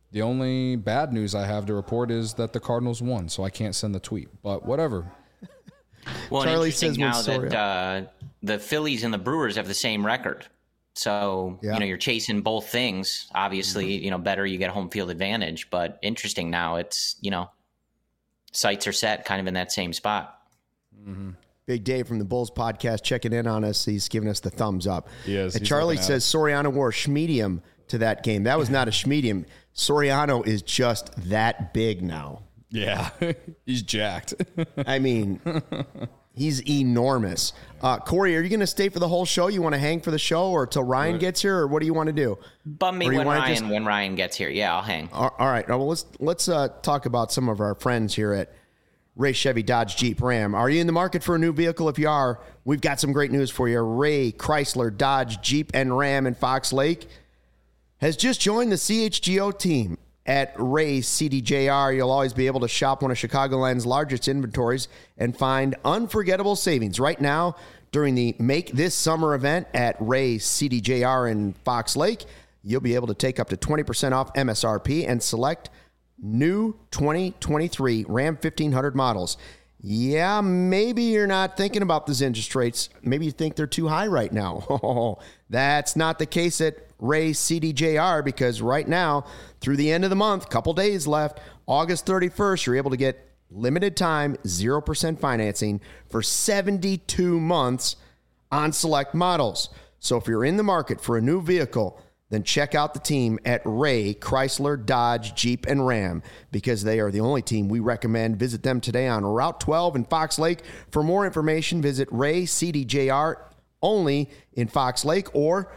The only bad news I have to report is that the Cardinals won, so I can't send the tweet. But whatever. Well, Charlie interesting says now that the Phillies and the Brewers have the same record. So, you're chasing both things. Obviously, better you get home field advantage. But interesting now, it's, sights are set kind of in that same spot. Mm-hmm. Big Dave from the Bulls podcast checking in on us. He's giving us the thumbs up. Yes. And Charlie says Soriano wore a schmedium to that game. That was not a schmedium. Soriano is just that big now. Yeah, he's jacked. I mean, he's enormous. Corey, are you going to stay for the whole show? You want to hang for the show or till Ryan gets here, or what do you want to do? Bum me when Ryan gets here. Yeah, I'll hang. All right. Well, let's talk about some of our friends here at Ray Chevy Dodge Jeep Ram. Are you in the market for a new vehicle? If you are, we've got some great news for you. Ray Chrysler Dodge Jeep and Ram in Fox Lake has just joined the CHGO team. At Ray CDJR, you'll always be able to shop one of Chicagoland's largest inventories and find unforgettable savings. Right now, during the Make This Summer event at Ray CDJR in Fox Lake, you'll be able to take up to 20% off MSRP and select new 2023 Ram 1500 models. Yeah, maybe you're not thinking about those interest rates. Maybe you think they're too high right now. That's not the case at Ray CDJR, because right now, through the end of the month, couple days left, August 31st, you're able to get limited time 0% financing for 72 months on select models. So if you're in the market for a new vehicle, then check out the team at Ray Chrysler Dodge Jeep and Ram, because they are the only team we recommend. Visit them today on Route 12 in Fox Lake. For more information, visit Ray CDJR only in Fox Lake or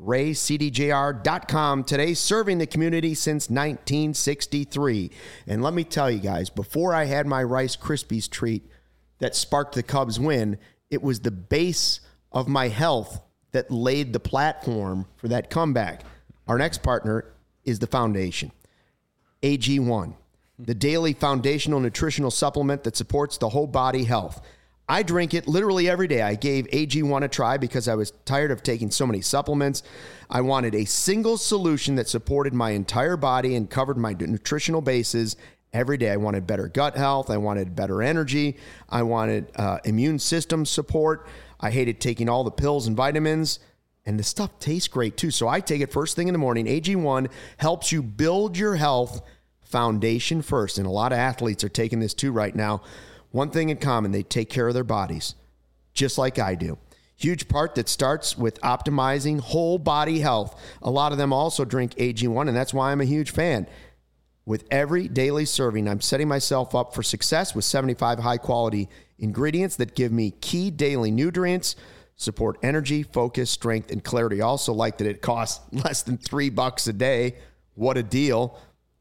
RayCDJR.com today, serving the community since 1963. And let me tell you guys, before I had my Rice Krispies treat that sparked the Cubs win, it was the base of my health that laid the platform for that comeback. Our next partner is the Foundation. AG1, the daily foundational nutritional supplement that supports the whole body health. I drink it literally every day. I gave AG1 a try because I was tired of taking so many supplements. I wanted a single solution that supported my entire body and covered my nutritional bases every day. I wanted better gut health. I wanted better energy. I wanted immune system support. I hated taking all the pills and vitamins. And the stuff tastes great too. So I take it first thing in the morning. AG1 helps you build your health foundation first. And a lot of athletes are taking this too right now. One thing in common, they take care of their bodies, just like I do. Huge part that starts with optimizing whole body health. A lot of them also drink AG1, and that's why I'm a huge fan. With every daily serving, I'm setting myself up for success with 75 high-quality ingredients that give me key daily nutrients, support energy, focus, strength, and clarity. I also like that it costs less than $3 a day. What a deal.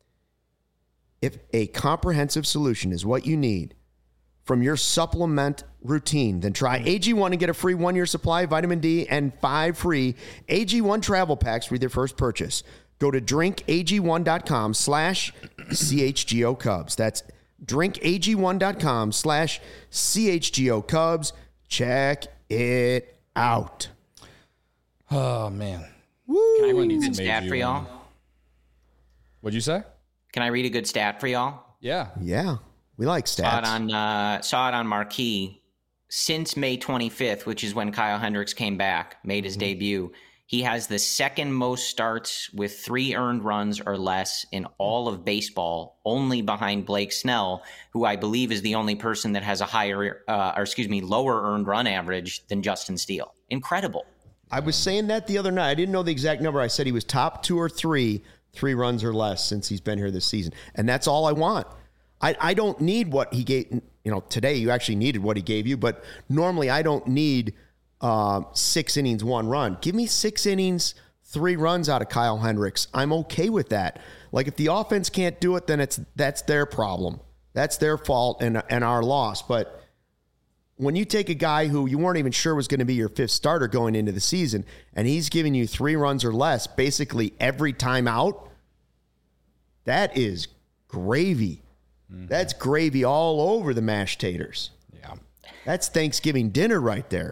If a comprehensive solution is what you need from your supplement routine, then try AG1 and get a free 1-year supply of vitamin D and 5 free AG1 travel packs with your first purchase. Go to drinkag1.com/CHGO Cubs. That's drinkag1.com/CHGO Cubs. Check it out. Oh, man. Woo. Can I read a good stat for y'all? What'd you say? Can I read a good stat for y'all? Yeah. Yeah. We like stats. Saw it on Marquee. Since May 25th, which is when Kyle Hendricks came back, made his debut, he has the second most starts with 3 earned runs or less in all of baseball, only behind Blake Snell, who I believe is the only person that has a lower earned run average than Justin Steele. Incredible. I was saying that the other night. I didn't know the exact number. I said he was top 2 or 3 runs or less since he's been here this season. And that's all I want. I don't need what he gave. Today you actually needed what he gave you, but normally I don't need 6 innings, 1 run. Give me 6 innings, 3 runs out of Kyle Hendricks. I'm okay with that. Like, if the offense can't do it, then that's their problem. That's their fault and our loss. But when you take a guy who you weren't even sure was going to be your 5th starter going into the season, and he's giving you 3 runs or less basically every time out, that is gravy. Mm-hmm. That's gravy all over the mashed taters. Yeah. That's Thanksgiving dinner right there.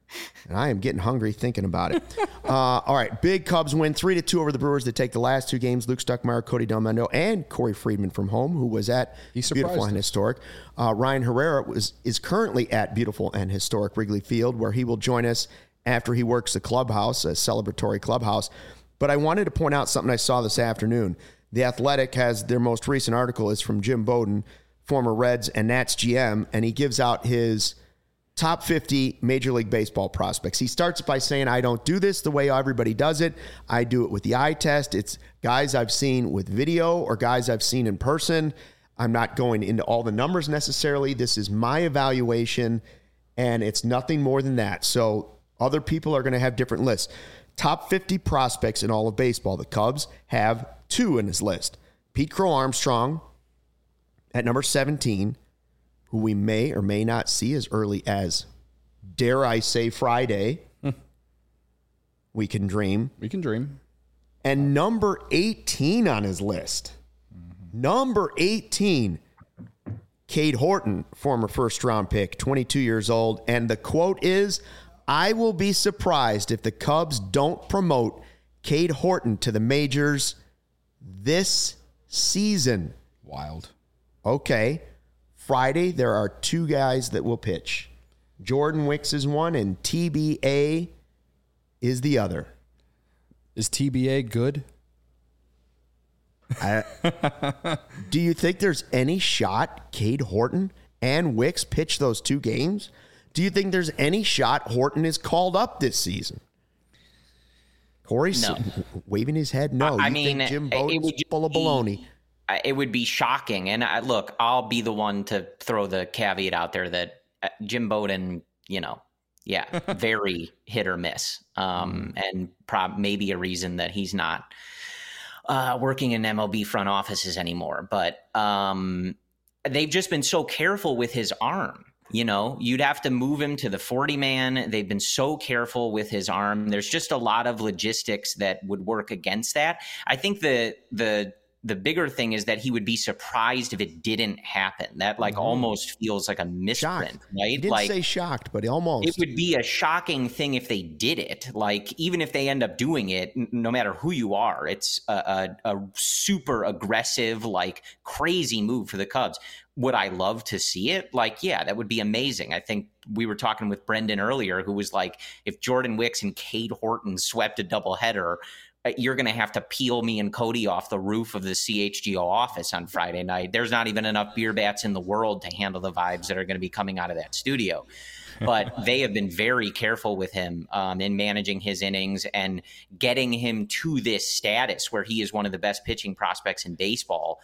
And I am getting hungry thinking about it. All right. Big Cubs win 3-2 over the Brewers. They take the last two games. Luke Stuckmeyer, Cody Delmendo, and Corey Friedman from home, who was at Beautiful and Historic. Ryan Herrera is currently at Beautiful and Historic Wrigley Field, where he will join us after he works the clubhouse, a celebratory clubhouse. But I wanted to point out something I saw this afternoon. The Athletic has their most recent article is from Jim Bowden, former Reds and Nats GM, and he gives out his top 50 Major League Baseball prospects. He starts by saying, I don't do this the way everybody does it. I do it with the eye test. It's guys I've seen with video or guys I've seen in person. I'm not going into all the numbers necessarily. This is my evaluation, and it's nothing more than that. So other people are going to have different lists. Top 50 prospects in all of baseball. The Cubs have 2 in his list. Pete Crow Armstrong at number 17, who we may or may not see as early as, dare I say, Friday. We can dream. We can dream. And number 18 on his list. Number 18, Cade Horton, former first-round pick, 22 years old. And the quote is, I will be surprised if the Cubs don't promote Cade Horton to the majors this season. Wild. Okay. Friday, there are 2 guys that will pitch. Jordan Wicks is one, and TBA is the other. Is TBA good? Do you think there's any shot Cade Horton and Wicks pitch those 2 games? Do you think there's any shot Horton is called up this season? Corey's waving his head no. I mean, Jim Bowden's full of baloney? It would be shocking. And look, I'll be the one to throw the caveat out there that Jim Bowden, very hit or miss. And maybe a reason that he's not working in MLB front offices anymore. But they've just been so careful with his arm. You'd have to move him to the 40-man. They've been so careful with his arm. There's just a lot of logistics that would work against that. I think the bigger thing is that he would be surprised if it didn't happen. That almost feels like a misprint, shocked. Right? He didn't say shocked, but almost. It would be a shocking thing if they did it. Even if they end up doing it, no matter who you are, it's a super aggressive, crazy move for the Cubs. Would I love to see it? That would be amazing. I think we were talking with Brendan earlier, who was like, if Jordan Wicks and Cade Horton swept a doubleheader, you're going to have to peel me and Cody off the roof of the CHGO office on Friday night. There's not even enough beer bats in the world to handle the vibes that are going to be coming out of that studio. But they have been very careful with him in managing his innings and getting him to this status where he is one of the best pitching prospects in baseball.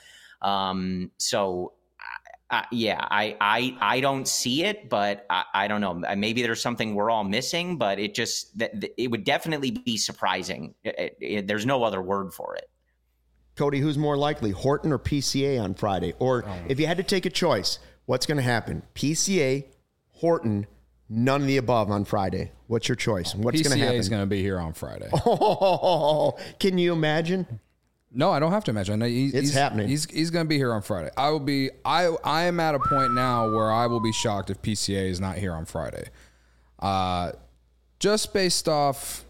I don't see it, but I don't know. Maybe there's something we're all missing, but it would definitely be surprising. There's no other word for it. Cody, who's more likely, Horton or PCA on Friday? Or if you had to take a choice, what's going to happen? PCA, Horton, none of the above on Friday. What's your choice? What's going to happen? PCA is going to be here on Friday. Oh, can you imagine? No, I don't have to imagine. It's happening. He's going to be here on Friday. I am at a point now where I will be shocked if PCA is not here on Friday. Just based off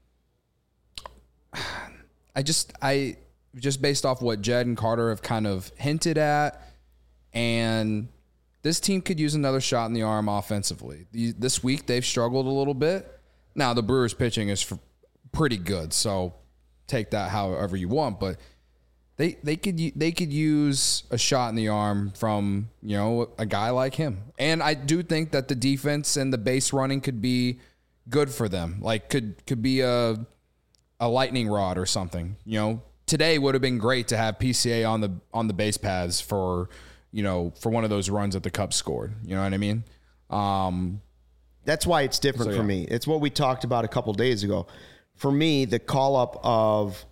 what Jed and Carter have kind of hinted at, and this team could use another shot in the arm offensively. This week they've struggled a little bit. Now the Brewers pitching is pretty good, so take that however you want, but they could use a shot in the arm from a guy like him. And I do think that the defense and the base running could be good for them. Could be a lightning rod or something. Today would have been great to have PCA on the base paths for one of those runs that the Cubs scored. You know what I mean? That's why it's different for me. It's what we talked about a couple days ago. For me, the call-up of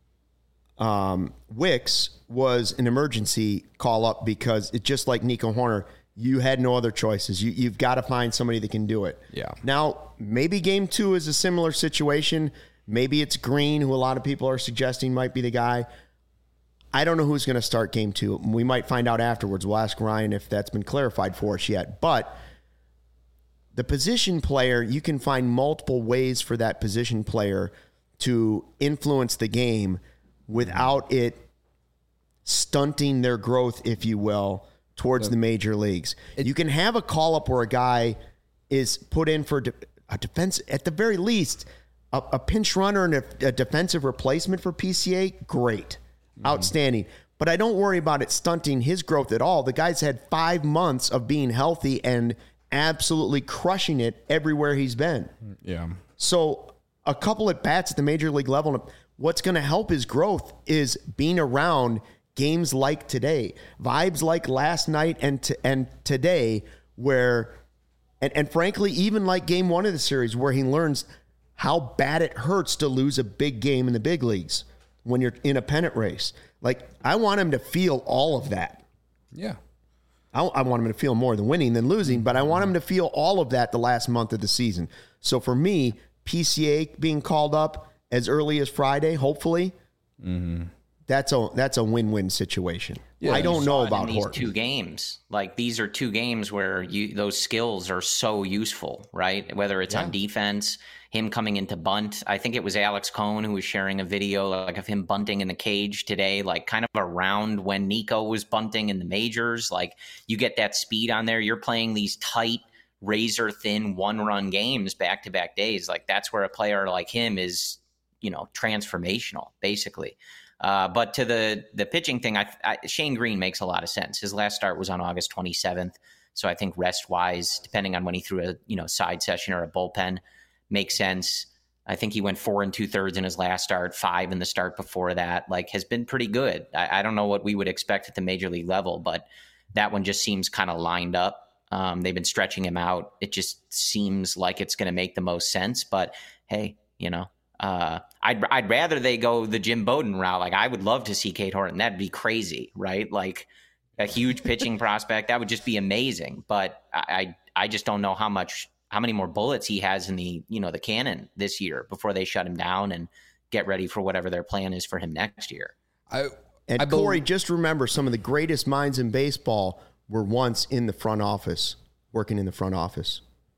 Wicks was an emergency call-up because it's just like Nico Horner. You had no other choices. You've got to find somebody that can do it. Yeah. Now, maybe Game 2 is a similar situation. Maybe it's Green, who a lot of people are suggesting might be the guy. I don't know who's going to start Game 2. We might find out afterwards. We'll ask Ryan if that's been clarified for us yet. But the position player, you can find multiple ways for that position player to influence the game without it stunting their growth, if you will, towards the major leagues. You can have a call-up where a guy is put in for a defense, at the very least, a pinch runner and a defensive replacement for PCA, great. Outstanding. But I don't worry about it stunting his growth at all. The guy's had 5 months of being healthy and absolutely crushing it everywhere he's been. Yeah. So a couple at bats at the major league level, what's going to help his growth is being around games like today, vibes like last night and today, where, and frankly, even like game 1 of the series, where he learns how bad it hurts to lose a big game in the big leagues when you're in a pennant race. Like, I want him to feel all of that. Yeah. I want him to feel more than winning than losing, but I want him to feel all of that the last month of the season. So for me, PCA being called up as early as Friday, hopefully, that's a win-win situation. Yeah, I don't know about these Horton. 2 games. Like, these are 2 games where those skills are so useful, right? Whether it's on defense, him coming into bunt. I think it was Alex Cohn who was sharing a video like of him bunting in the cage today, like kind of around when Nico was bunting in the majors. Like, you get that speed on there. You're playing these tight, razor-thin one-run games back-to-back days. Like, that's where a player like him is, transformational, basically. But to the pitching thing, Shane Green makes a lot of sense. His last start was on August 27th. So I think rest-wise, depending on when he threw a side session or a bullpen, makes sense. I think he went 4 2/3 in his last start, 5 in the start before that. Like, has been pretty good. I don't know what we would expect at the major league level, but that one just seems kind of lined up. They've been stretching him out. It just seems like it's going to make the most sense. But hey, I'd rather they go the Jim Bowden route. Like, I would love to see Cade Horton. That'd be crazy, right? Like, a huge pitching prospect. That would just be amazing. But I just don't know how many more bullets he has in the cannon this year before they shut him down and get ready for whatever their plan is for him next year. Corey, just remember, some of the greatest minds in baseball were once in the front office, working in the front office.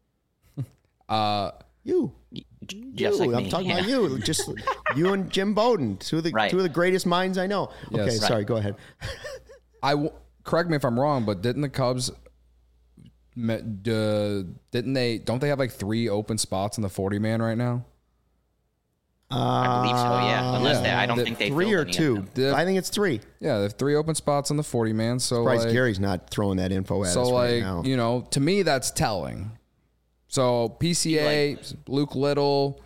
You. Just like I'm me. talking about you. Just you and Jim Bowden, two of the greatest minds I know. Okay, Yes. sorry, go ahead. Correct me if I'm wrong, but didn't the Cubs don't they have like 3 open spots in the 40-man right now? I believe so, yeah. Unless I don't think they 3 or filled 2. I think it's 3. Yeah, they have 3 open spots in the 40-man. So Surprised Gary's not throwing that info at us right now. To me, that's telling. So PCA, Luke Little,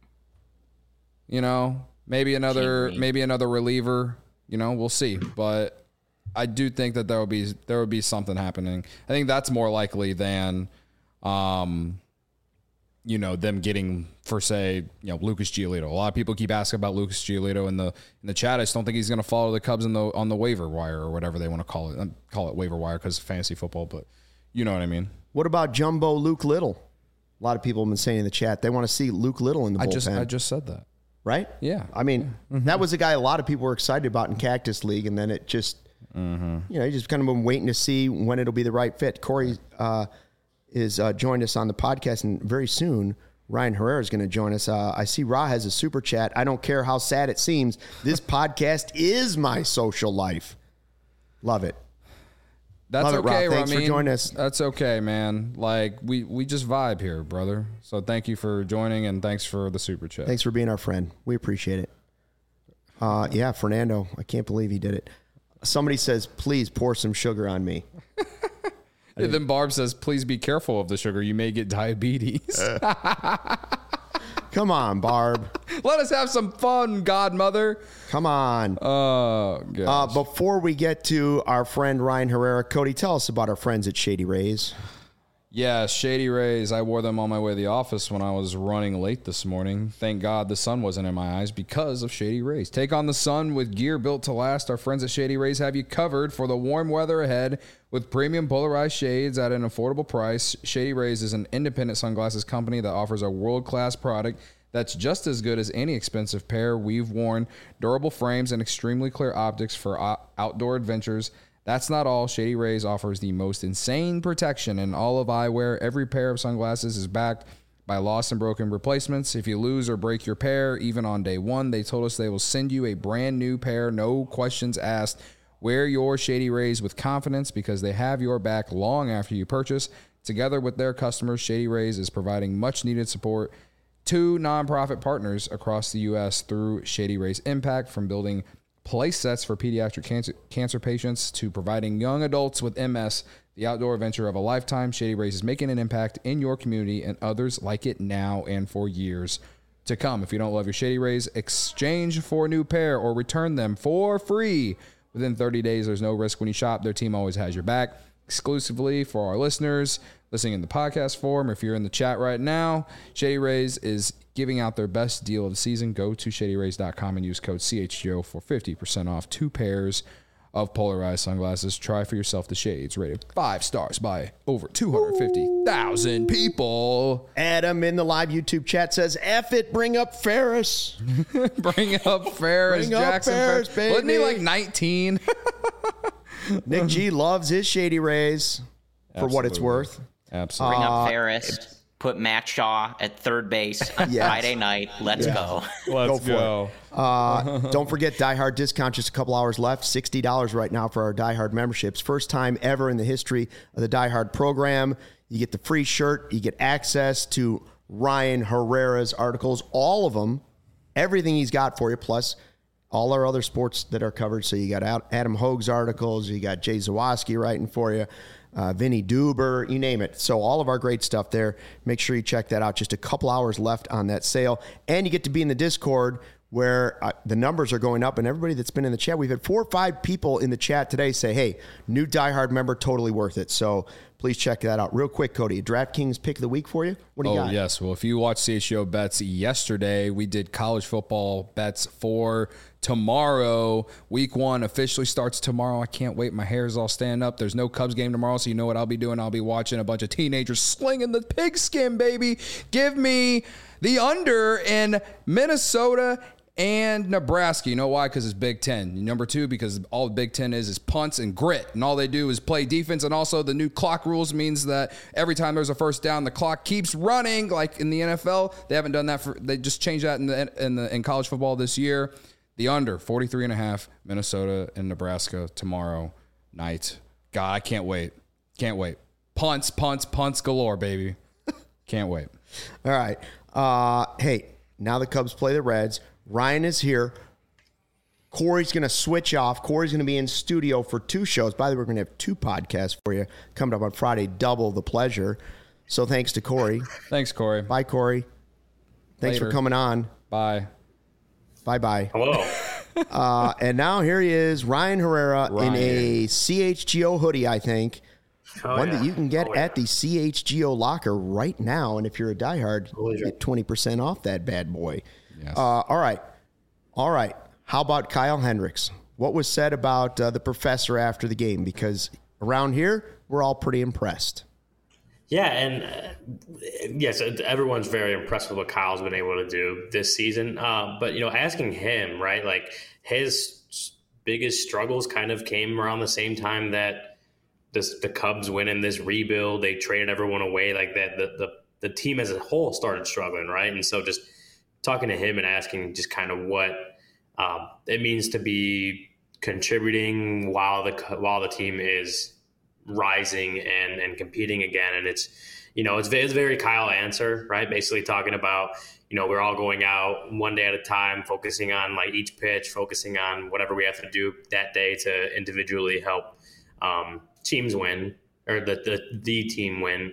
maybe another reliever. We'll see. But I do think that there would be something happening. I think that's more likely than, them getting, for say, Lucas Giolito. A lot of people keep asking about Lucas Giolito in the chat. I just don't think he's going to follow the Cubs on the waiver wire or whatever they want to call it. Call it waiver wire because of fantasy football, but you know what I mean. What about Jumbo Luke Little? A lot of people have been saying in the chat they want to see Luke Little in the bullpen. I just said that. Right? Yeah. I mean, that was a guy a lot of people were excited about in Cactus League, and then it just, you just kind of been waiting to see when it'll be the right fit. Corey is joined us on the podcast, and very soon Ryan Herrera is going to join us. I see Ra has a super chat. I don't care how sad it seems. This podcast is my social life. Love it. That's Love okay, it, Rob. Thanks for joining us. That's okay, man. Like, we just vibe here, brother. So thank you for joining, and thanks for the super chat. Thanks for being our friend. We appreciate it. Yeah, Fernando, I can't believe he did it. Somebody says, please pour some sugar on me. And then Barb says, please be careful of the sugar. You may get diabetes. Come on, Barb. Let us have some fun, godmother. Come on. Oh, gosh. Before we get to our friend Ryan Herrera, Cody, tell us about our friends at Shady Rays. Yeah, Shady Rays. I wore them on my way to the office when I was running late this morning. Thank God the sun wasn't in my eyes because of Shady Rays. Take on the sun with gear built to last. Our friends at Shady Rays have you covered for the warm weather ahead with premium polarized shades at an affordable price. Shady Rays is an independent sunglasses company that offers a world-class product that's just as good as any expensive pair we've worn. Durable frames and extremely clear optics for outdoor adventures. That's not all. Shady Rays offers the most insane protection in all of eyewear. Every pair of sunglasses is backed by lost and broken replacements. If you lose or break your pair, even on day one, they told us they will send you a brand new pair, no questions asked. Wear your Shady Rays with confidence because they have your back long after you purchase. Together with their customers, Shady Rays is providing much needed support to nonprofit partners across the U.S. through Shady Rays Impact, from building place sets for pediatric cancer patients to providing young adults with MS the outdoor adventure of a lifetime. Shady Rays is making an impact in your community and others like it now and for years to come. If you don't love your Shady Rays, exchange for a new pair or return them for free within 30 days. There's no risk when you shop. Their team always has your back. Exclusively for our listeners listening in the podcast form, or if you're in the chat right now, Shady Rays is giving out their best deal of the season. Go to shadyrays.com and use code CHGO for 50% off 2 pairs of polarized sunglasses. Try for yourself the shades, rated 5 stars by over 250,000 people. Adam in the live YouTube chat says, F it, bring up Ferris. Bring up Ferris. Bring up Jackson Ferris, baby. Wasn't he like 19? Nick G loves his Shady Rays for what it's worth. Absolutely. Bring up Ferris. Put Matt Shaw at third base on Yes. Friday night. Let's go. Let's go. Don't forget Die Hard discount, just a couple hours left. $60 right now for our Die Hard memberships. First time ever in the history of the Die Hard program. You get the free shirt. You get access to Ryan Herrera's articles, all of them, everything he's got for you, plus all our other sports that are covered. So you got Adam Hogue's articles. You got Jay Zawoski writing for you. Vinny Duber, you name it. So all of our great stuff there. Make sure you check that out. Just a couple hours left on that sale. And you get to be in the Discord where the numbers are going up. And everybody that's been in the chat, we've had 4 or 5 people in the chat today say, hey, new Die Hard member, totally worth it. So please check that out. Real quick, Cody, a DraftKings pick of the week for you? What do you got? Oh, yes. Well, if you watched CHGO Bets yesterday, we did college football bets for tomorrow. Week 1 officially starts tomorrow. I can't wait. My hair is all standing up. There's no Cubs game tomorrow, so you know what I'll be doing. I'll be watching a bunch of teenagers slinging the pigskin, baby. Give me the under in Minnesota and Nebraska. You know why? Because it's Big Ten. Number 2, because all the Big Ten is punts and grit, and all they do is play defense. And also the new clock rules means that every time there's a first down, the clock keeps running. Like in the NFL, they haven't done that they just changed that in college football this year. The under 43.5, Minnesota and Nebraska tomorrow night. God, I can't wait. Can't wait. Punts galore, baby. Can't wait. All right. Hey, now the Cubs play the Reds. Ryan is here. Corey's going to switch off. Corey's going to be in studio for 2 shows. By the way, we're going to have 2 podcasts for you coming up on Friday. Double the pleasure. So thanks to Corey. Thanks, Corey. Bye, Corey. Thanks Later. for coming on. Bye. Bye-bye. Hello. And now here he is, Ryan Herrera, in a CHGO hoodie, I think. One that you can get at the CHGO locker right now. And if you're a diehard, you get 20% off that bad boy. Yes. All right. How about Kyle Hendricks? What was said about the professor after the game? Because around here, we're all pretty impressed. Yeah, and yes, everyone's very impressed with what Kyle's been able to do this season. But, asking him, right, like his biggest struggles kind of came around the same time that the Cubs went in this rebuild. They traded everyone away like that. The team as a whole started struggling, right? And so just talking to him and asking just kind of what it means to be contributing while the team is rising and competing again. And it's very Kyle answer, right? Basically talking about, we're all going out one day at a time, focusing on like each pitch, focusing on whatever we have to do that day to individually help teams win, or the team win.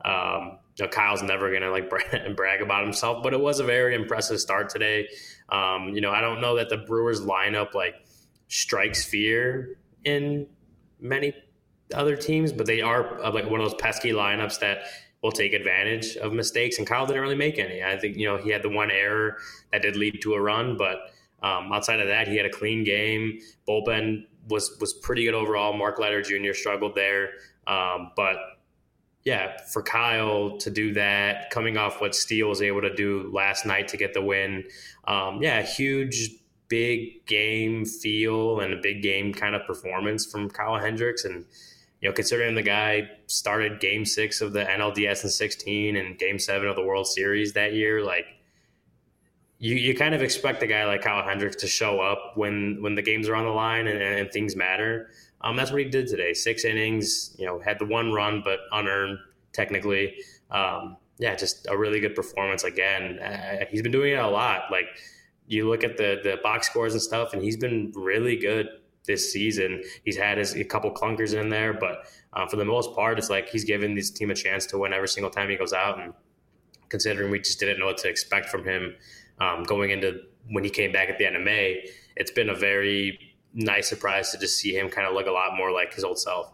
Kyle's never going to like brag about himself, but it was a very impressive start today. I don't know that the Brewers lineup like strikes fear in many other teams, but they are like one of those pesky lineups that will take advantage of mistakes, and Kyle didn't really make any. I think, he had the one error that did lead to a run, but outside of that, he had a clean game. Bullpen was pretty good overall. Mark Leiter Jr. struggled there. But yeah, for Kyle to do that, coming off what Steele was able to do last night to get the win, huge big game feel and a big game kind of performance from Kyle Hendricks. And, considering the guy started game 6 of the NLDS in 16 and game 7 of the World Series that year, like you kind of expect a guy like Kyle Hendricks to show up when the games are on the line and things matter. That's what he did today. 6 innings, had the 1 run, but unearned technically. Just a really good performance again. He's been doing it a lot. Like you look at the box scores and stuff, and he's been really good this season. He's had a couple clunkers in there, but for the most part, it's like he's given this team a chance to win every single time he goes out. And considering we just didn't know what to expect from him going into when he came back at the end of May, it's been a very nice surprise to just see him kind of look a lot more like his old self.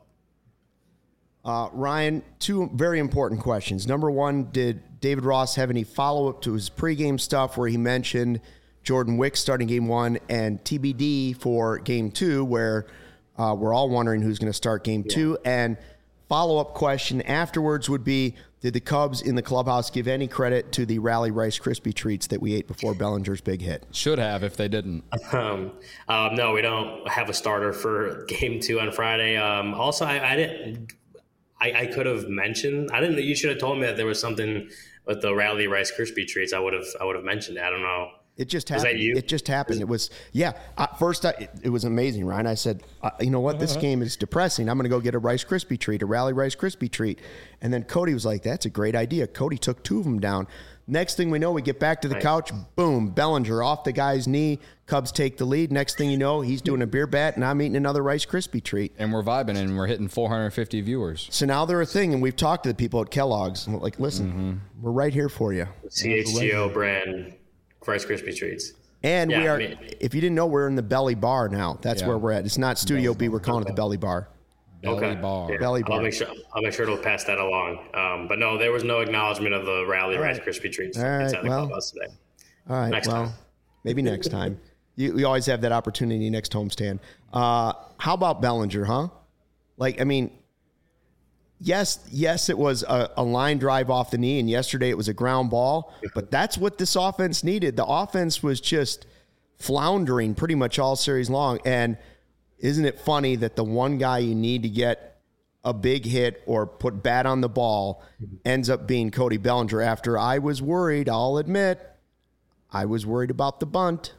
Ryan, 2 very important questions. Number 1, did David Ross have any follow-up to his pregame stuff where he mentioned Jordan Wicks starting game 1 and TBD for game 2, where we're all wondering who's going to start game 2? And follow-up question afterwards would be, did the Cubs in the clubhouse give any credit to the Rally Rice Krispie treats that we ate before Bellinger's big hit? Should have if they didn't. No, we don't have a starter for game 2 on Friday. Also, I didn't. I could have mentioned. I didn't. You should have told me that there was something with the Rally Rice Krispie treats. I would have mentioned it. I don't know. It just happened. Was that you? It just happened. It was, first, it was amazing, Ryan. I said, you know what? This game is depressing. I'm going to go get a Rice Krispie treat, a Rally Rice Krispie treat. And then Cody was like, that's a great idea. Cody took 2 of them down. Next thing we know, we get back to the couch. Boom, Bellinger off the guy's knee. Cubs take the lead. Next thing you know, he's doing a beer bat, and I'm eating another Rice Krispie treat. And we're vibing, and we're hitting 450 viewers. So now they're a thing, and we've talked to the people at Kellogg's. And we're like, listen, we're right here for you. CHGO brand Rice Krispie treats. And we are, if you didn't know, we're in the Belly Bar now. That's where we're at. It's not Studio B. We're calling it the Belly Bar. Belly Bar. Yeah. Belly Bar. I'll make sure to pass that along. But no, there was no acknowledgement of the Rally Rice Krispie treats inside the clubhouse today. All right. Next time. Maybe next time. We always have that opportunity next homestand. How about Bellinger, huh? Like, I mean, yes, it was a line drive off the knee, and yesterday it was a ground ball, but that's what this offense needed. The offense was just floundering pretty much all series long, and isn't it funny that the one guy you need to get a big hit or put bat on the ball ends up being Cody Bellinger after I was worried, I'll admit, I was worried about the bunt.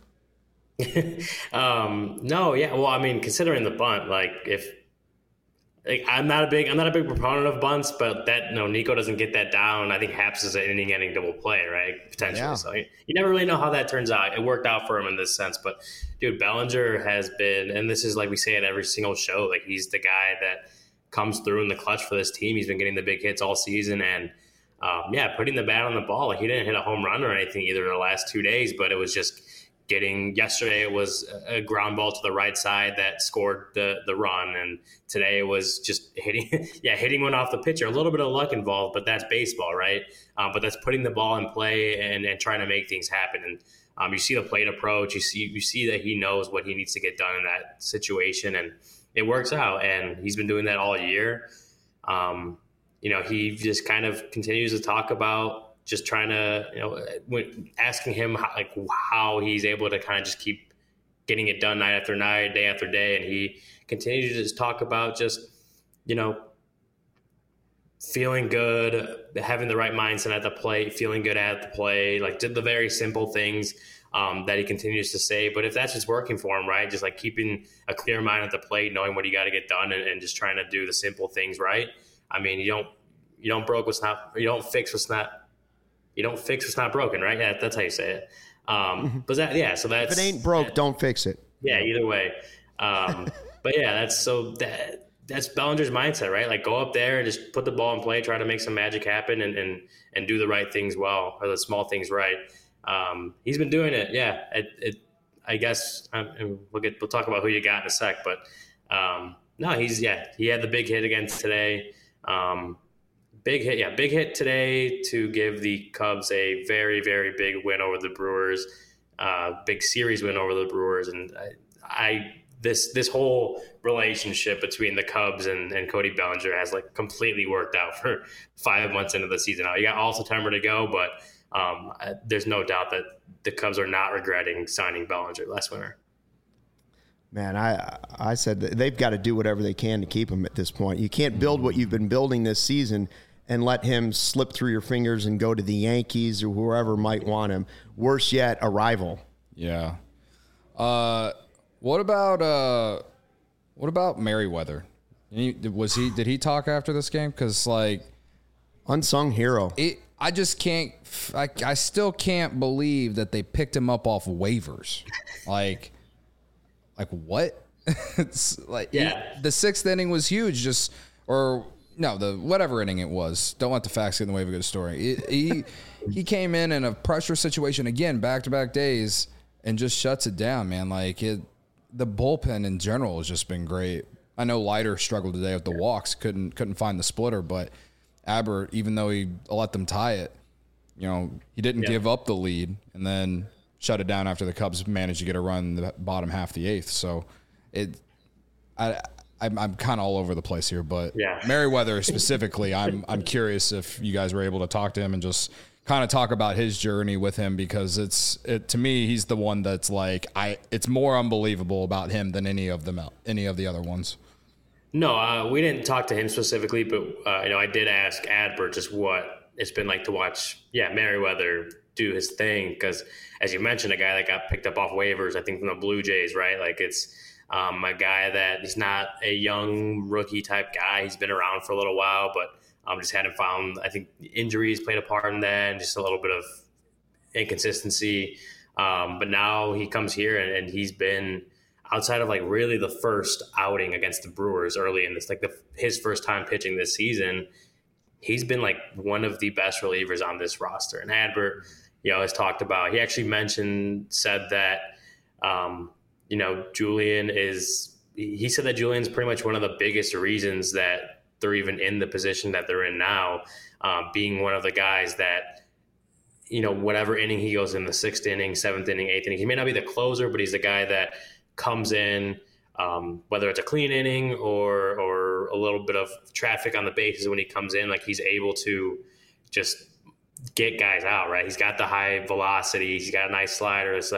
No, yeah. Well, I mean, considering the bunt, I'm not a big proponent of bunts, but Nico doesn't get that down. I think Haps is an inning-ending double play, right? Potentially. Yeah. So you never really know how that turns out. It worked out for him in this sense, but dude, Bellinger has been, and this is like we say at every single show, like he's the guy that comes through in the clutch for this team. He's been getting the big hits all season, and putting the bat on the ball. Like he didn't hit a home run or anything either in the last 2 days, but it was just yesterday it was a ground ball to the right side that scored the run, and today it was just hitting one off the pitcher. A little bit of luck involved, but that's baseball, right? But that's putting the ball in play and trying to make things happen. And you see the plate approach. You see that he knows what he needs to get done in that situation, and it works out. And he's been doing that all year. He just kind of continues to talk about just trying to, asking him how he's able to kind of just keep getting it done night after night, day after day. And he continues to just talk about just, feeling good, having the right mindset at the plate, feeling good at the play, did the very simple things that he continues to say. But if that's just working for him, right, just keeping a clear mind at the plate, knowing what you got to get done and just trying to do the simple things right. I mean, you don't fix what's not broken, right? Yeah, that's how you say it. But so that's, if it ain't broke, don't fix it. Yeah, either way. But yeah, that's Bellinger's mindset, right? Go up there and just put the ball in play, try to make some magic happen, and do the right things well, or the small things right. He's been doing it. Yeah, I guess we'll talk about who you got in a sec, but he had the big hit again today. Big hit today to give the Cubs a very, very big win over the Brewers, big series win over the Brewers. And this whole relationship between the Cubs and Cody Bellinger has completely worked out for 5 months into the season. Now you got all September to go, but there's no doubt that the Cubs are not regretting signing Bellinger last winter. Man, I said that they've got to do whatever they can to keep him at this point. You can't build what you've been building this season and let him slip through your fingers and go to the Yankees or whoever might want him. Worse yet, a rival. Yeah. What about Merriweather? Did he talk after this game? Because unsung hero. I just can't. I still can't believe that they picked him up off waivers. Like what? It's the sixth inning was huge. The whatever inning it was. Don't let the facts get in the way of a good story. He came in a pressure situation again, back-to-back days, and just shuts it down, man. The bullpen in general has just been great. I know Leiter struggled today with the walks, couldn't find the splitter, but Aber, even though he let them tie it, he didn't give up the lead and then shut it down after the Cubs managed to get a run in the bottom half of the eighth. So I'm kind of all over the place here, but Merriweather specifically, I'm curious if you guys were able to talk to him and just kind of talk about his journey with him, because to me, he's the one that's it's more unbelievable about him than any of the other ones. No, we didn't talk to him specifically, but I did ask Adbert just what it's been like to watch Merriweather do his thing, because as you mentioned, a guy that got picked up off waivers, I think from the Blue Jays, right? It's a guy that he's not a young rookie type guy. He's been around for a little while, but just hadn't found, I think injuries played a part in that, and just a little bit of inconsistency. But now he comes here and he's been, outside of really the first outing against the Brewers early in this, his first time pitching this season, he's been one of the best relievers on this roster. And Adbert, has talked about, he actually said that, he said that Julian's pretty much one of the biggest reasons that they're even in the position that they're in now, being one of the guys that, whatever inning he goes in, the sixth inning, seventh inning, eighth inning, he may not be the closer, but he's the guy that comes in, whether it's a clean inning or a little bit of traffic on the bases when he comes in, he's able to just get guys out, right? He's got the high velocity. He's got a nice slider. It's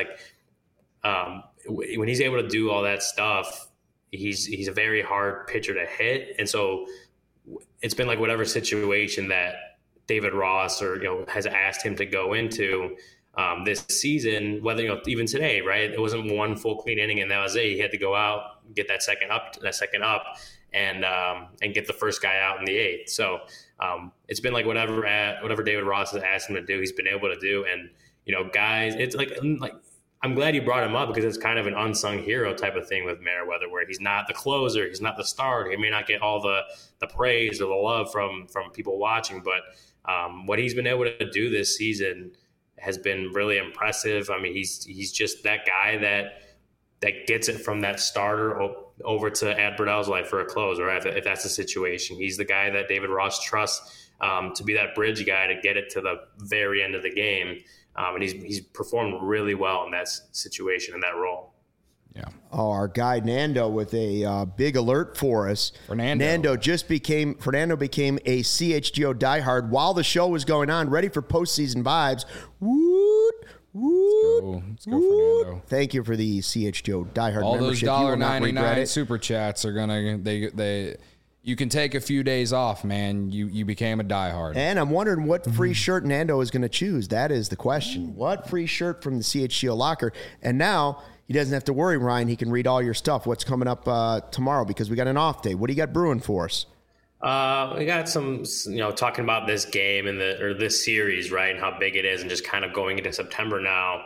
when he's able to do all that stuff, he's a very hard pitcher to hit. And so it's been whatever situation that David Ross has asked him to go into this season, whether, even today, right? It wasn't one full clean inning and that was it. He had to go out, get that second up and get the first guy out in the eighth. So it's been whatever David Ross has asked him to do, he's been able to do. And, guys, it's I'm glad you brought him up, because it's kind of an unsung hero type of thing with Merriweather, where he's not the closer, he's not the starter. He may not get all the praise or the love from people watching, but what he's been able to do this season has been really impressive. I mean, he's just that guy that gets it from that starter over to Adbert Alzolay for a closer, right? If that's the situation. He's the guy that David Ross trusts to be that bridge guy to get it to the very end of the game. And he's performed really well in that situation, in that role. Yeah. Oh, our guy Nando with a big alert for us. Fernando became a CHGO diehard while the show was going on, ready for postseason vibes. Woot, woot, Let's go, Fernando. Thank you for the CHGO diehard all membership. All those $1.99 super chats are gonna you can take a few days off, man. You became a diehard. And I'm wondering what free shirt Nando is going to choose. That is the question. What free shirt from the CHGO locker? And now he doesn't have to worry, Ryan. He can read all your stuff. What's coming up tomorrow, because we got an off day. What do you got brewing for us? We got some, talking about this game and this series, right, and how big it is, and just kind of going into September now.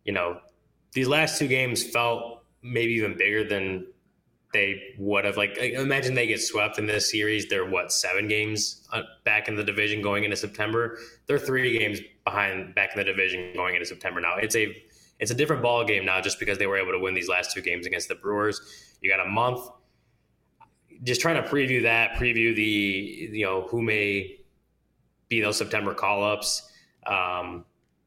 These last two games felt maybe even bigger than they would have. Imagine they get swept in this series. They're 7 games back in the division going into September. They're 3 games behind back in the division going into September now. It's a different ball game now, just because they were able to win these last 2 games against the Brewers. You got a month. Just trying to preview the who may be those September call-ups. I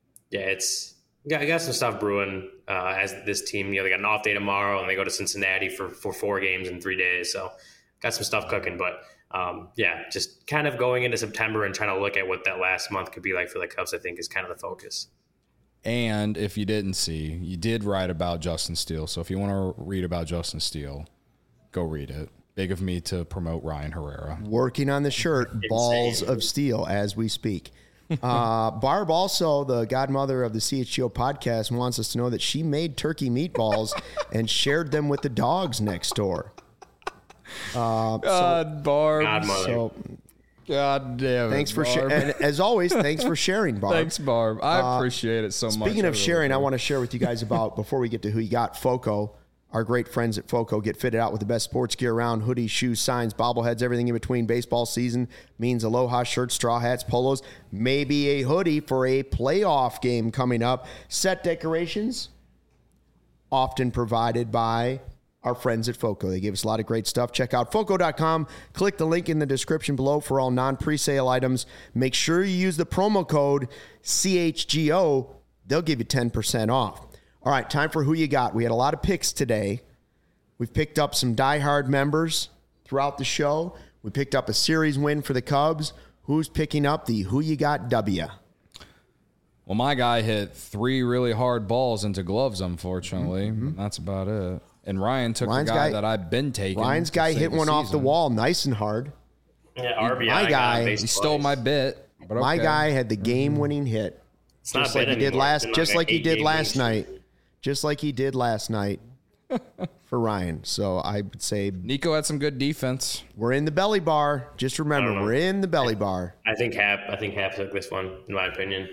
got some stuff brewing as this team. They got an off day tomorrow, and they go to Cincinnati for 4 games in 3 days. So got some stuff cooking. But just kind of going into September and trying to look at what that last month could be like for the Cubs, I think is kind of the focus. And if you didn't see, you did write about Justin Steele. So if you want to read about Justin Steele, go read it. Big of me to promote Ryan Herrera. Working on the shirt, Balls of Steel, as we speak. Barb, also the godmother of the CHGO podcast, wants us to know that she made turkey meatballs and shared them with the dogs next door. Barb. Godmother. So, God damn it. thanks for Barb. and as always, thanks for sharing, Barb. Thanks, Barb. I appreciate it so much. Speaking of sharing, I want to share with you guys about, before we get to who you got, FOCO. Our great friends at FOCO get fitted out with the best sports gear around: hoodies, shoes, signs, bobbleheads, everything in between. Baseball season means Aloha shirts, straw hats, polos, maybe a hoodie for a playoff game coming up. Set decorations, often provided by our friends at FOCO. They give us a lot of great stuff. Check out FOCO.com. Click the link in the description below for all non-presale items. Make sure you use the promo code CHGO. They'll give you 10% off. All right, time for Who You Got. We had a lot of picks today. We've picked up some diehard members throughout the show. We picked up a series win for the Cubs. Who's picking up the Who You Got W? Well, my guy hit 3 really hard balls into gloves, unfortunately. That's about it. And Ryan took the guy that I've been taking. Ryan's guy hit one off the wall nice and hard. Yeah, RBI. My guy, He stole my bit. But my okay. guy had the game-winning hit. It's Just not like he did last. just like he did last night. Just like he did last night for Ryan. So I would say Nico had some good defense. we're in the belly bar. Just remember, we're in the belly bar. I think Hap took this one, in my opinion.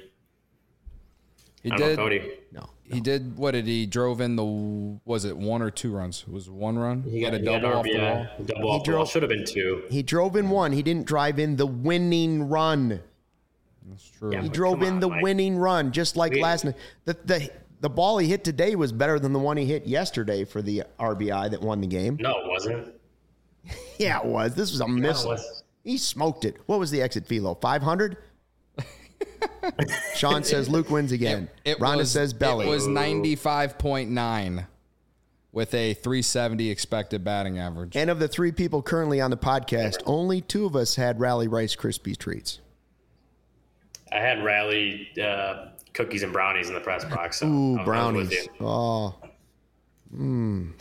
He I don't did. know, Cody. No. He did. What did he drove in the? Was it 1 or 2 runs? It was 1 run. He had a double off the wall. Double off the wall. Should have been 2. He drove in one. He didn't drive in the winning run. That's true. Yeah. He But drove come in on, the Mike. winning run, just like last night. The ball he hit today was better than the one he hit yesterday for the RBI that won the game. No, it wasn't. Yeah, it was. This was a missile. was. He smoked it. What was the exit velo? 500? Sean says Luke wins again. Rhonda says belly. It was 95.9 with a 370 expected batting average. And of the 3 people currently on the podcast, only 2 of us had Rally Rice Krispie treats. I had Rally cookies and brownies in the press box. So Ooh, I was brownies. with you. Oh, I don't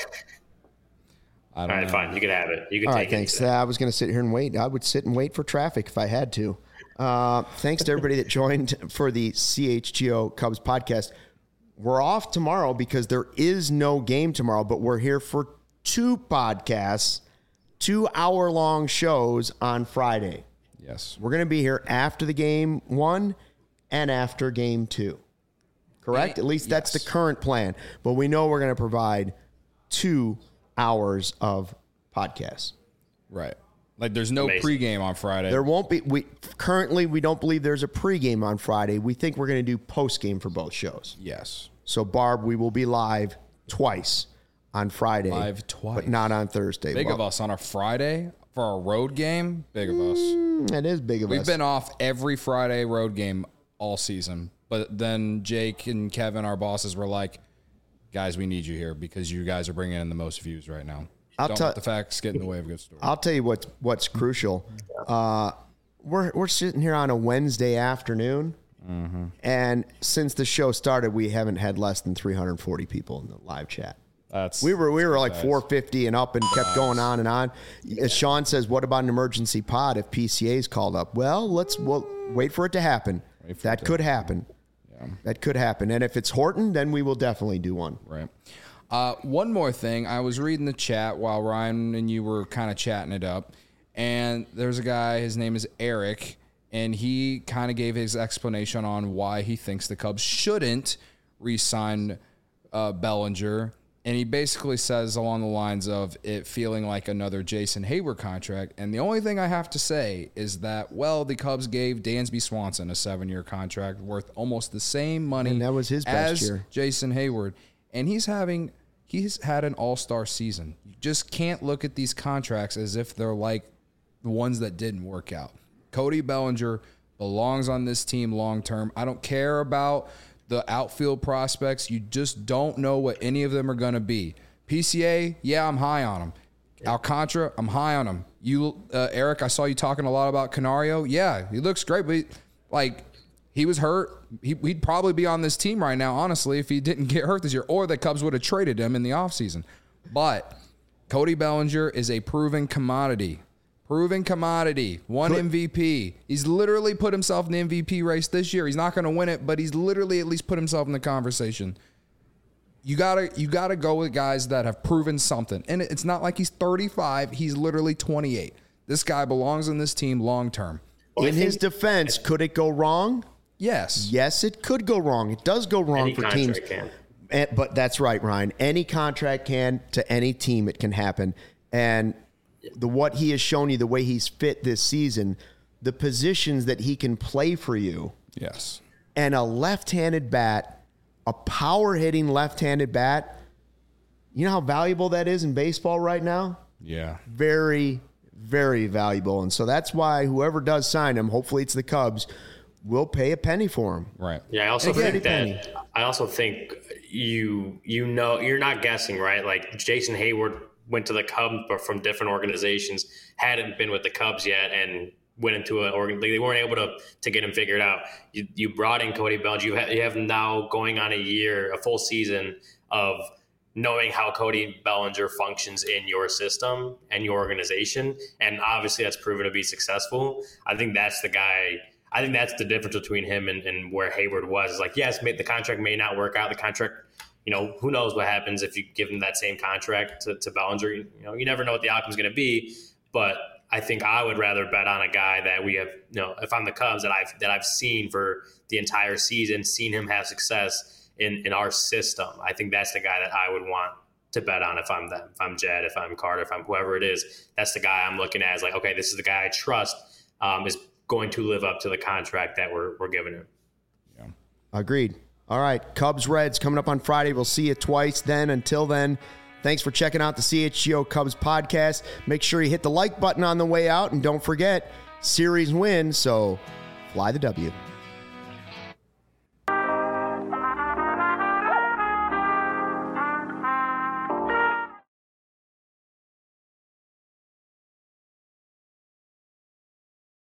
All right, know. fine. You can have it. You can all take right, thanks. it. I was going to sit here and wait. I would sit and wait for traffic if I had to. Thanks to everybody that joined for the CHGO Cubs podcast. We're off tomorrow because there is no game tomorrow, but we're here for 2 podcasts, 2-hour-long shows on Friday. Yes. We're going to be here after the game 1 and after game 2. Correct? At least that's the current plan. But we know we're going to provide 2 hours of podcasts. Right. Like there's no Amazing. pregame on Friday. There won't be. We don't believe there's a pregame on Friday. We think we're going to do postgame for both shows. Yes. So Barb, we will be live twice on Friday. Live twice. But not on Thursday. Big of us on a Friday for a road game. Big of us. That is big of us. We've been off every Friday road game all season. But then Jake and Kevin, our bosses, were like, guys, we need you here because you guys are bringing in the most views right now. Don't let the facts get in the way of a good story. I'll tell you what's crucial. We're sitting here on a Wednesday afternoon, and since the show started, we haven't had less than 340 people in the live chat. We were like 450 and up and kept going on and on. As Sean says, what about an emergency pod if PCA's called up? Well, we'll wait for it to happen. That could happen. Yeah. That could happen. And if it's Horton, then we will definitely do one. Right. One more thing. I was reading the chat while Ryan and you were kind of chatting it up. And there's a guy, his name is Eric, and he kind of gave his explanation on why he thinks the Cubs shouldn't re-sign Bellinger. And he basically says along the lines of it feeling like another Jason Hayward contract. And the only thing I have to say is that, well, the Cubs gave Dansby Swanson a 7-year contract worth almost the same money And that was his best as year. Jason Hayward. And he's had an all-star season. You just can't look at these contracts as if they're like the ones that didn't work out. Cody Bellinger belongs on this team long-term. I don't care about the outfield prospects. You just don't know what any of them are going to be. PCA, yeah, I'm high on him. Alcantara, I'm high on him. You, Eric, I saw you talking a lot about Canario. Yeah, he looks great, but he was hurt. He'd probably be on this team right now, honestly, if he didn't get hurt this year, or the Cubs would have traded him in the offseason. But Cody Bellinger is a proven commodity. Proven commodity. Won MVP. He's literally put himself in the MVP race this year. He's not going to win it, but he's literally at least put himself in the conversation. You gotta go with guys that have proven something. And it's not like he's 35. He's literally 28. This guy belongs in this team long term. In his defense, could it go wrong? Yes. Yes, it could go wrong. It does go wrong for teams. But that's right, Ryan. Any contract can, to any team, it can happen. And what he has shown you, the way he's fit this season, the positions that he can play for you. Yes. And a left-handed bat, a power-hitting left-handed bat, you know how valuable that is in baseball right now? Yeah. Very, very valuable. And so that's why whoever does sign him, hopefully it's the Cubs, will pay a penny for him. Right. Yeah, I also think you're not guessing, right? Like Jason Hayward went to the Cubs, but from different organizations, hadn't been with the Cubs yet, and went into an organ. They weren't able to get him figured out. You brought in Cody Bellinger. You have now going on a full season of knowing how Cody Bellinger functions in your system and your organization, and obviously that's proven to be successful. I think that's the guy. I think that's the difference between him and where Hayward was. It's like, yes, the contract may not work out. The contract, who knows what happens if you give him that same contract to Bellinger. You never know what the outcome is going to be. But I think I would rather bet on a guy that we have, if I'm the Cubs, that I've seen for the entire season, seen him have success in our system. I think that's the guy that I would want to bet on if I'm them. If I'm Jed, if I'm Carter, if I'm whoever it is, that's the guy I'm looking at as like, okay, this is the guy I trust is going to live up to the contract that we're giving him. Yeah. Agreed. All right. Cubs Reds coming up on Friday. We'll see you twice then. Until then, thanks for checking out the CHGO Cubs podcast. Make sure you hit the like button on the way out, and don't forget, series win, so fly the W.